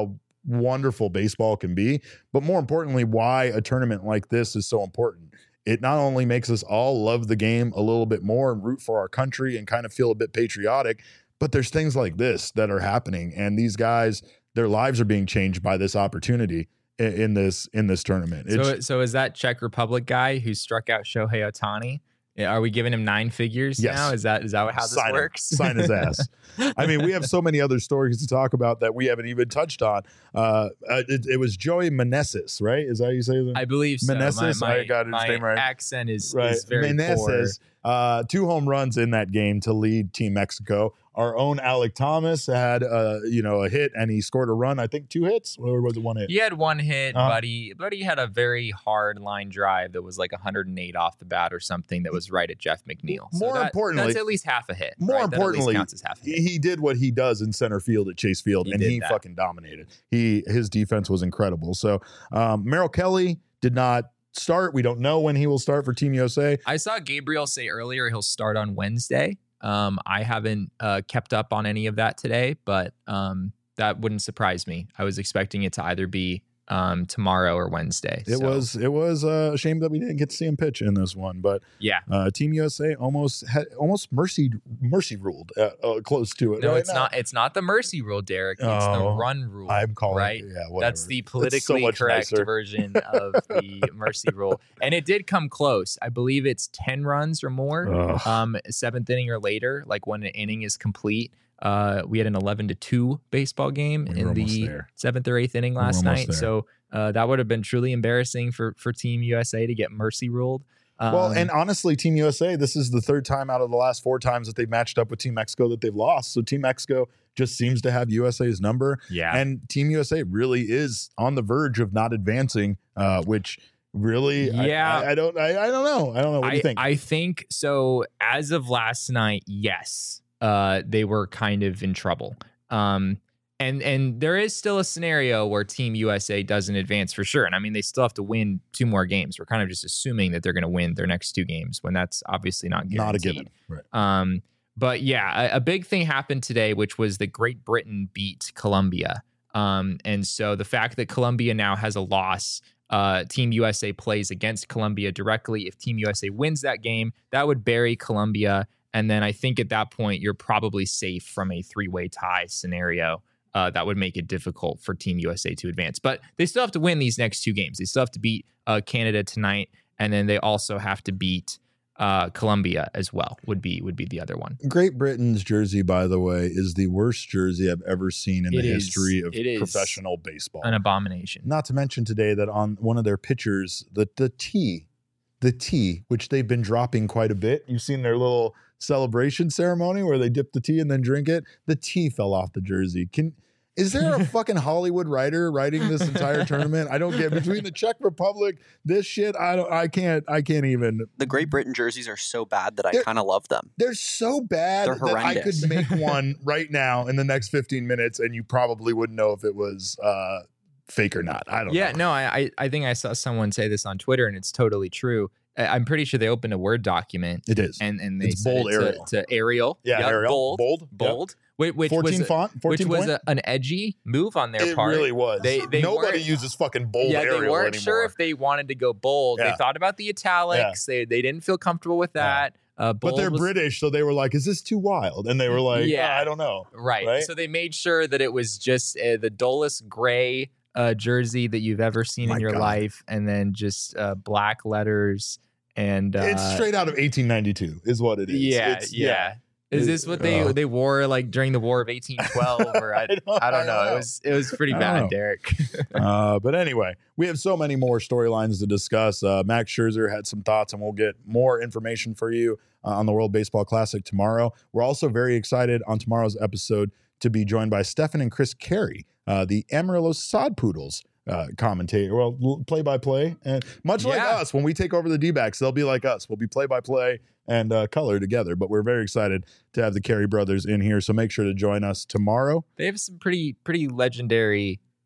wonderful baseball can be, but more importantly, why a tournament like this is so important. It not only makes us all love the game a little bit more and root for our country and kind of feel a bit patriotic, but there's things like this that are happening, and these guys, their lives are being changed by this opportunity in, in this in this tournament. So, It's, so is that Czech Republic guy who struck out Shohei Ohtani? Are we giving him nine figures Yes. now? Is that is that how this sign him. works? Sign his ass. I mean, we have so many other stories to talk about that we haven't even touched on. Uh, it, it was Joey Meneses, right? Is that how you say that? I believe so. Meneses, my, my, I got his my name right. accent is, Right. is very Meneses, uh, two home runs in that game to lead Team Mexico. Our own Alec Thomas had, uh, you know, a hit, and he scored a run. I think two hits, or was it one hit? He had one hit, Uh-huh. but he but he had a very hard line drive that was like one hundred eight off the bat or something that was right at Jeff McNeil. So More that- importantly- that's at least half a hit. More right? That at least importantly, counts as half a hit. he he did what he does in center field at Chase Field, He and did he that. fucking dominated. He his defense was incredible. So um, Merrill Kelly did not start. We don't know when he will start for Team U S A. I saw Gabriel say earlier he'll start on Wednesday. Um, I haven't uh, kept up on any of that today, but um, that wouldn't surprise me. I was expecting it to either be um, tomorrow or Wednesday. It So, was it was uh, a shame that we didn't get to see him pitch in this one, but yeah. uh, Team U S A almost had almost mercy mercy ruled uh, uh, close to it. No, right it's now. not. It's not the mercy rule, Derek. It's the Oh, run rule. I'm calling right. it. Yeah, whatever. That's the It's so politically much correct nicer. version of the mercy rule, and it did come close. I believe it's ten runs or more, Ugh. um, seventh inning or later. Like when an inning is complete. Uh, we had an eleven to two baseball game We were in almost the there. seventh or eighth inning We were last almost night. there. So uh, that would have been truly embarrassing for for Team U S A to get mercy ruled. Um, Well, and honestly, Team U S A, this is the third time out of the last four times that they've matched up with Team Mexico that they've lost. So Team Mexico just seems to have U S A's number. yeah, And Team U S A really is on the verge of not advancing, uh, which really, I- Yeah. I, I don't, I, I don't know. I don't know. What do I, you think? I think so. As of last night, yes, uh, they were kind of in trouble. Um, and and there is still a scenario where Team U S A doesn't advance for sure. And I mean, they still have to win two more games. We're kind of just assuming that they're going to win their next two games when that's obviously not guaranteed. not a given. Right. Um, but yeah, a, a big thing happened today, which was that Great Britain beat Colombia. Um, and so the fact that Colombia now has a loss, uh, Team U S A plays against Colombia directly. If Team U S A wins that game, that would bury Colombia. And then I think at that point, you're probably safe from a three-way tie scenario. Uh, that would make it difficult for Team U S A to advance. But they still have to win these next two games. They still have to beat uh, Canada tonight, and then they also have to beat uh, Colombia as well. Would be would be the other one. Great Britain's jersey, by the way, is the worst jersey I've ever seen in It the is- history of it is professional baseball. An abomination. Not to mention today that on one of their pictures, the the T, the T, which they've been dropping quite a bit. You've seen their little celebration ceremony where they dip the tea and then drink it. The T fell off the jersey. Can is there a fucking Hollywood writer writing this entire tournament? I don't get between the Czech Republic, this shit. I don't. I can't. I can't even. The Great Britain jerseys are so bad that I They're- kind of love them. They're so bad They're that I could horrendous. make one right now in the next fifteen minutes, and you probably wouldn't know if it was uh, fake or not. I don't. Yeah, know. no, I, I I think I saw someone say this on Twitter, and it's totally true. I- I'm pretty sure they opened a Word document It is. and and they It's said bold it to- Arial. to, Arial. Yeah, Yep, Arial. bold, Bold. Yep. bold. Which, which fourteen was a, font. which fourteen was point. a, an edgy move on their It part. really was. They- they Nobody weren't- uses fucking bold yeah, Arial they weren't anymore. sure if they wanted to go bold. Yeah. They thought about the italics. They they didn't feel comfortable with Yeah. that. Uh, but bold they're was- British, so they were like, "Is this too wild?" And they were like, Yeah. "Yeah, I don't know." Right. Right? So they made sure that it was just uh, the dullest gray uh, jersey that you've ever seen My in your God. life, and then just uh, black letters. And uh, It's straight out of eighteen ninety-two, is what it is. Yeah, It's- yeah. Is this what they Uh, they wore like during the War of eighteen twelve? Or I, I don't- I don't I know. don't It know. was it was pretty I don't bad, know. Derek. uh, but anyway, we have so many more storylines to discuss. Uh, Max Scherzer had some thoughts, and we'll get more information for you uh, on the World Baseball Classic tomorrow. We're also very excited on tomorrow's episode to be joined by Stefan and Chris Carey, uh, the Amarillo Sod Poodles. Uh, commentator, well, play by play, and much like Yeah. us, when we take over the D-backs, they'll be like us. We'll be play by play and uh, color together. But we're very excited to have the Carey brothers in here. So make sure to join us tomorrow. They have some pretty pretty legendary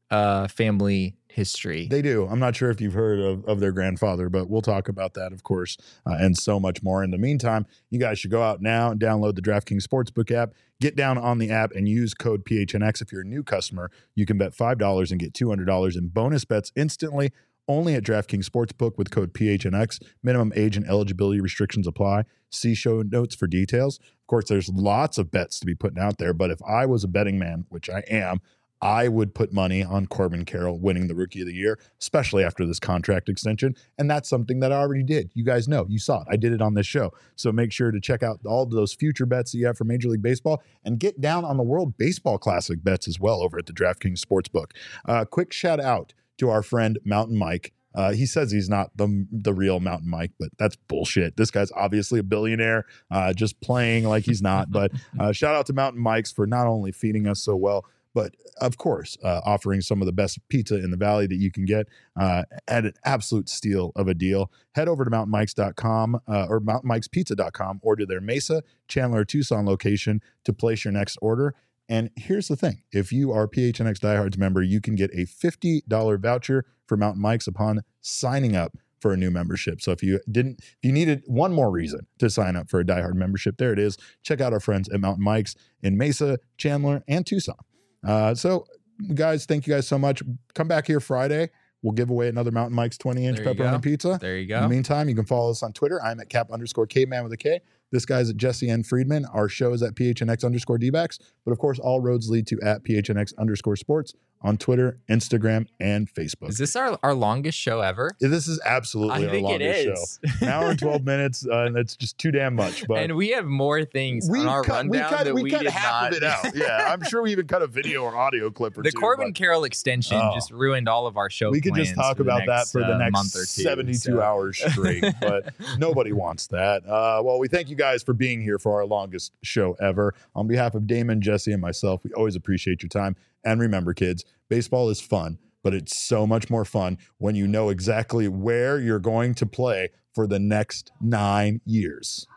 uh, family history. They do. I'm not sure if you've heard of, of their grandfather, but we'll talk about that, of course, uh, and so much more. In the meantime, you guys should go out now and download the DraftKings Sportsbook app. Get down on the app and use code P H N X. If you're a new customer, you can bet five dollars and get two hundred dollars in bonus bets instantly, only at DraftKings Sportsbook with code P H N X. Minimum age and eligibility restrictions apply. See show notes for details. Of course, there's lots of bets to be putting out there, but if I was a betting man, which I am, I would put money on Corbin Carroll winning the Rookie of the Year, especially after this contract extension. And that's something that I already did. You guys know. You saw it. I did it on this show. So make sure to check out all of those future bets that you have for Major League Baseball and get down on the World Baseball Classic bets as well over at the DraftKings Sportsbook. Uh, quick shout out to our friend Mountain Mike. Uh, he says he's not the the real Mountain Mike, but that's bullshit. This guy's obviously a billionaire, uh, just playing like he's not. But uh, shout out to Mountain Mike's for not only feeding us so well, but of course, uh, offering some of the best pizza in the valley that you can get uh, at an absolute steal of a deal. Head over to mountain mikes dot com uh, or mountain mikes pizza dot com or to their Mesa, Chandler, Tucson location to place your next order. And here's the thing. If you are a P H N X Diehards member, you can get a fifty dollars voucher for Mountain Mike's upon signing up for a new membership. So if you didn't, if you needed one more reason to sign up for a Diehard membership, there it is. Check out our friends at Mountain Mike's in Mesa, Chandler, and Tucson. Uh, so guys, thank you guys so much. Come back here Friday. We'll give away another Mountain Mike's twenty inch pepperoni pizza. There you go. In the meantime, you can follow us on Twitter. I'm at cap underscore caveman with a K. This guy's at Jesse N. Friedman. Our show is at P H N X underscore D-backs. But of course, all roads lead to at P H N X underscore sports on Twitter, Instagram, and Facebook. Is this our, our longest show ever? This is absolutely I our think it longest is. show. An hour and twelve minutes, uh, and that's just too damn much. But and we have more things on our cut, rundown we cut, that we we cut did half not. of it out. Yeah, I'm sure we even cut a video or audio clip or the two. Corbin but Carroll extension Oh. just ruined all of our show we could just plans talk for the about that next, for the uh, next month or two, seventy-two so. hours straight, but nobody wants that. Uh, well, we thank you guys for being here for our longest show ever. On behalf of Damon, Jesse, and myself, we always appreciate your time. And remember, kids, baseball is fun, but it's so much more fun when you know exactly where you're going to play for the next nine years.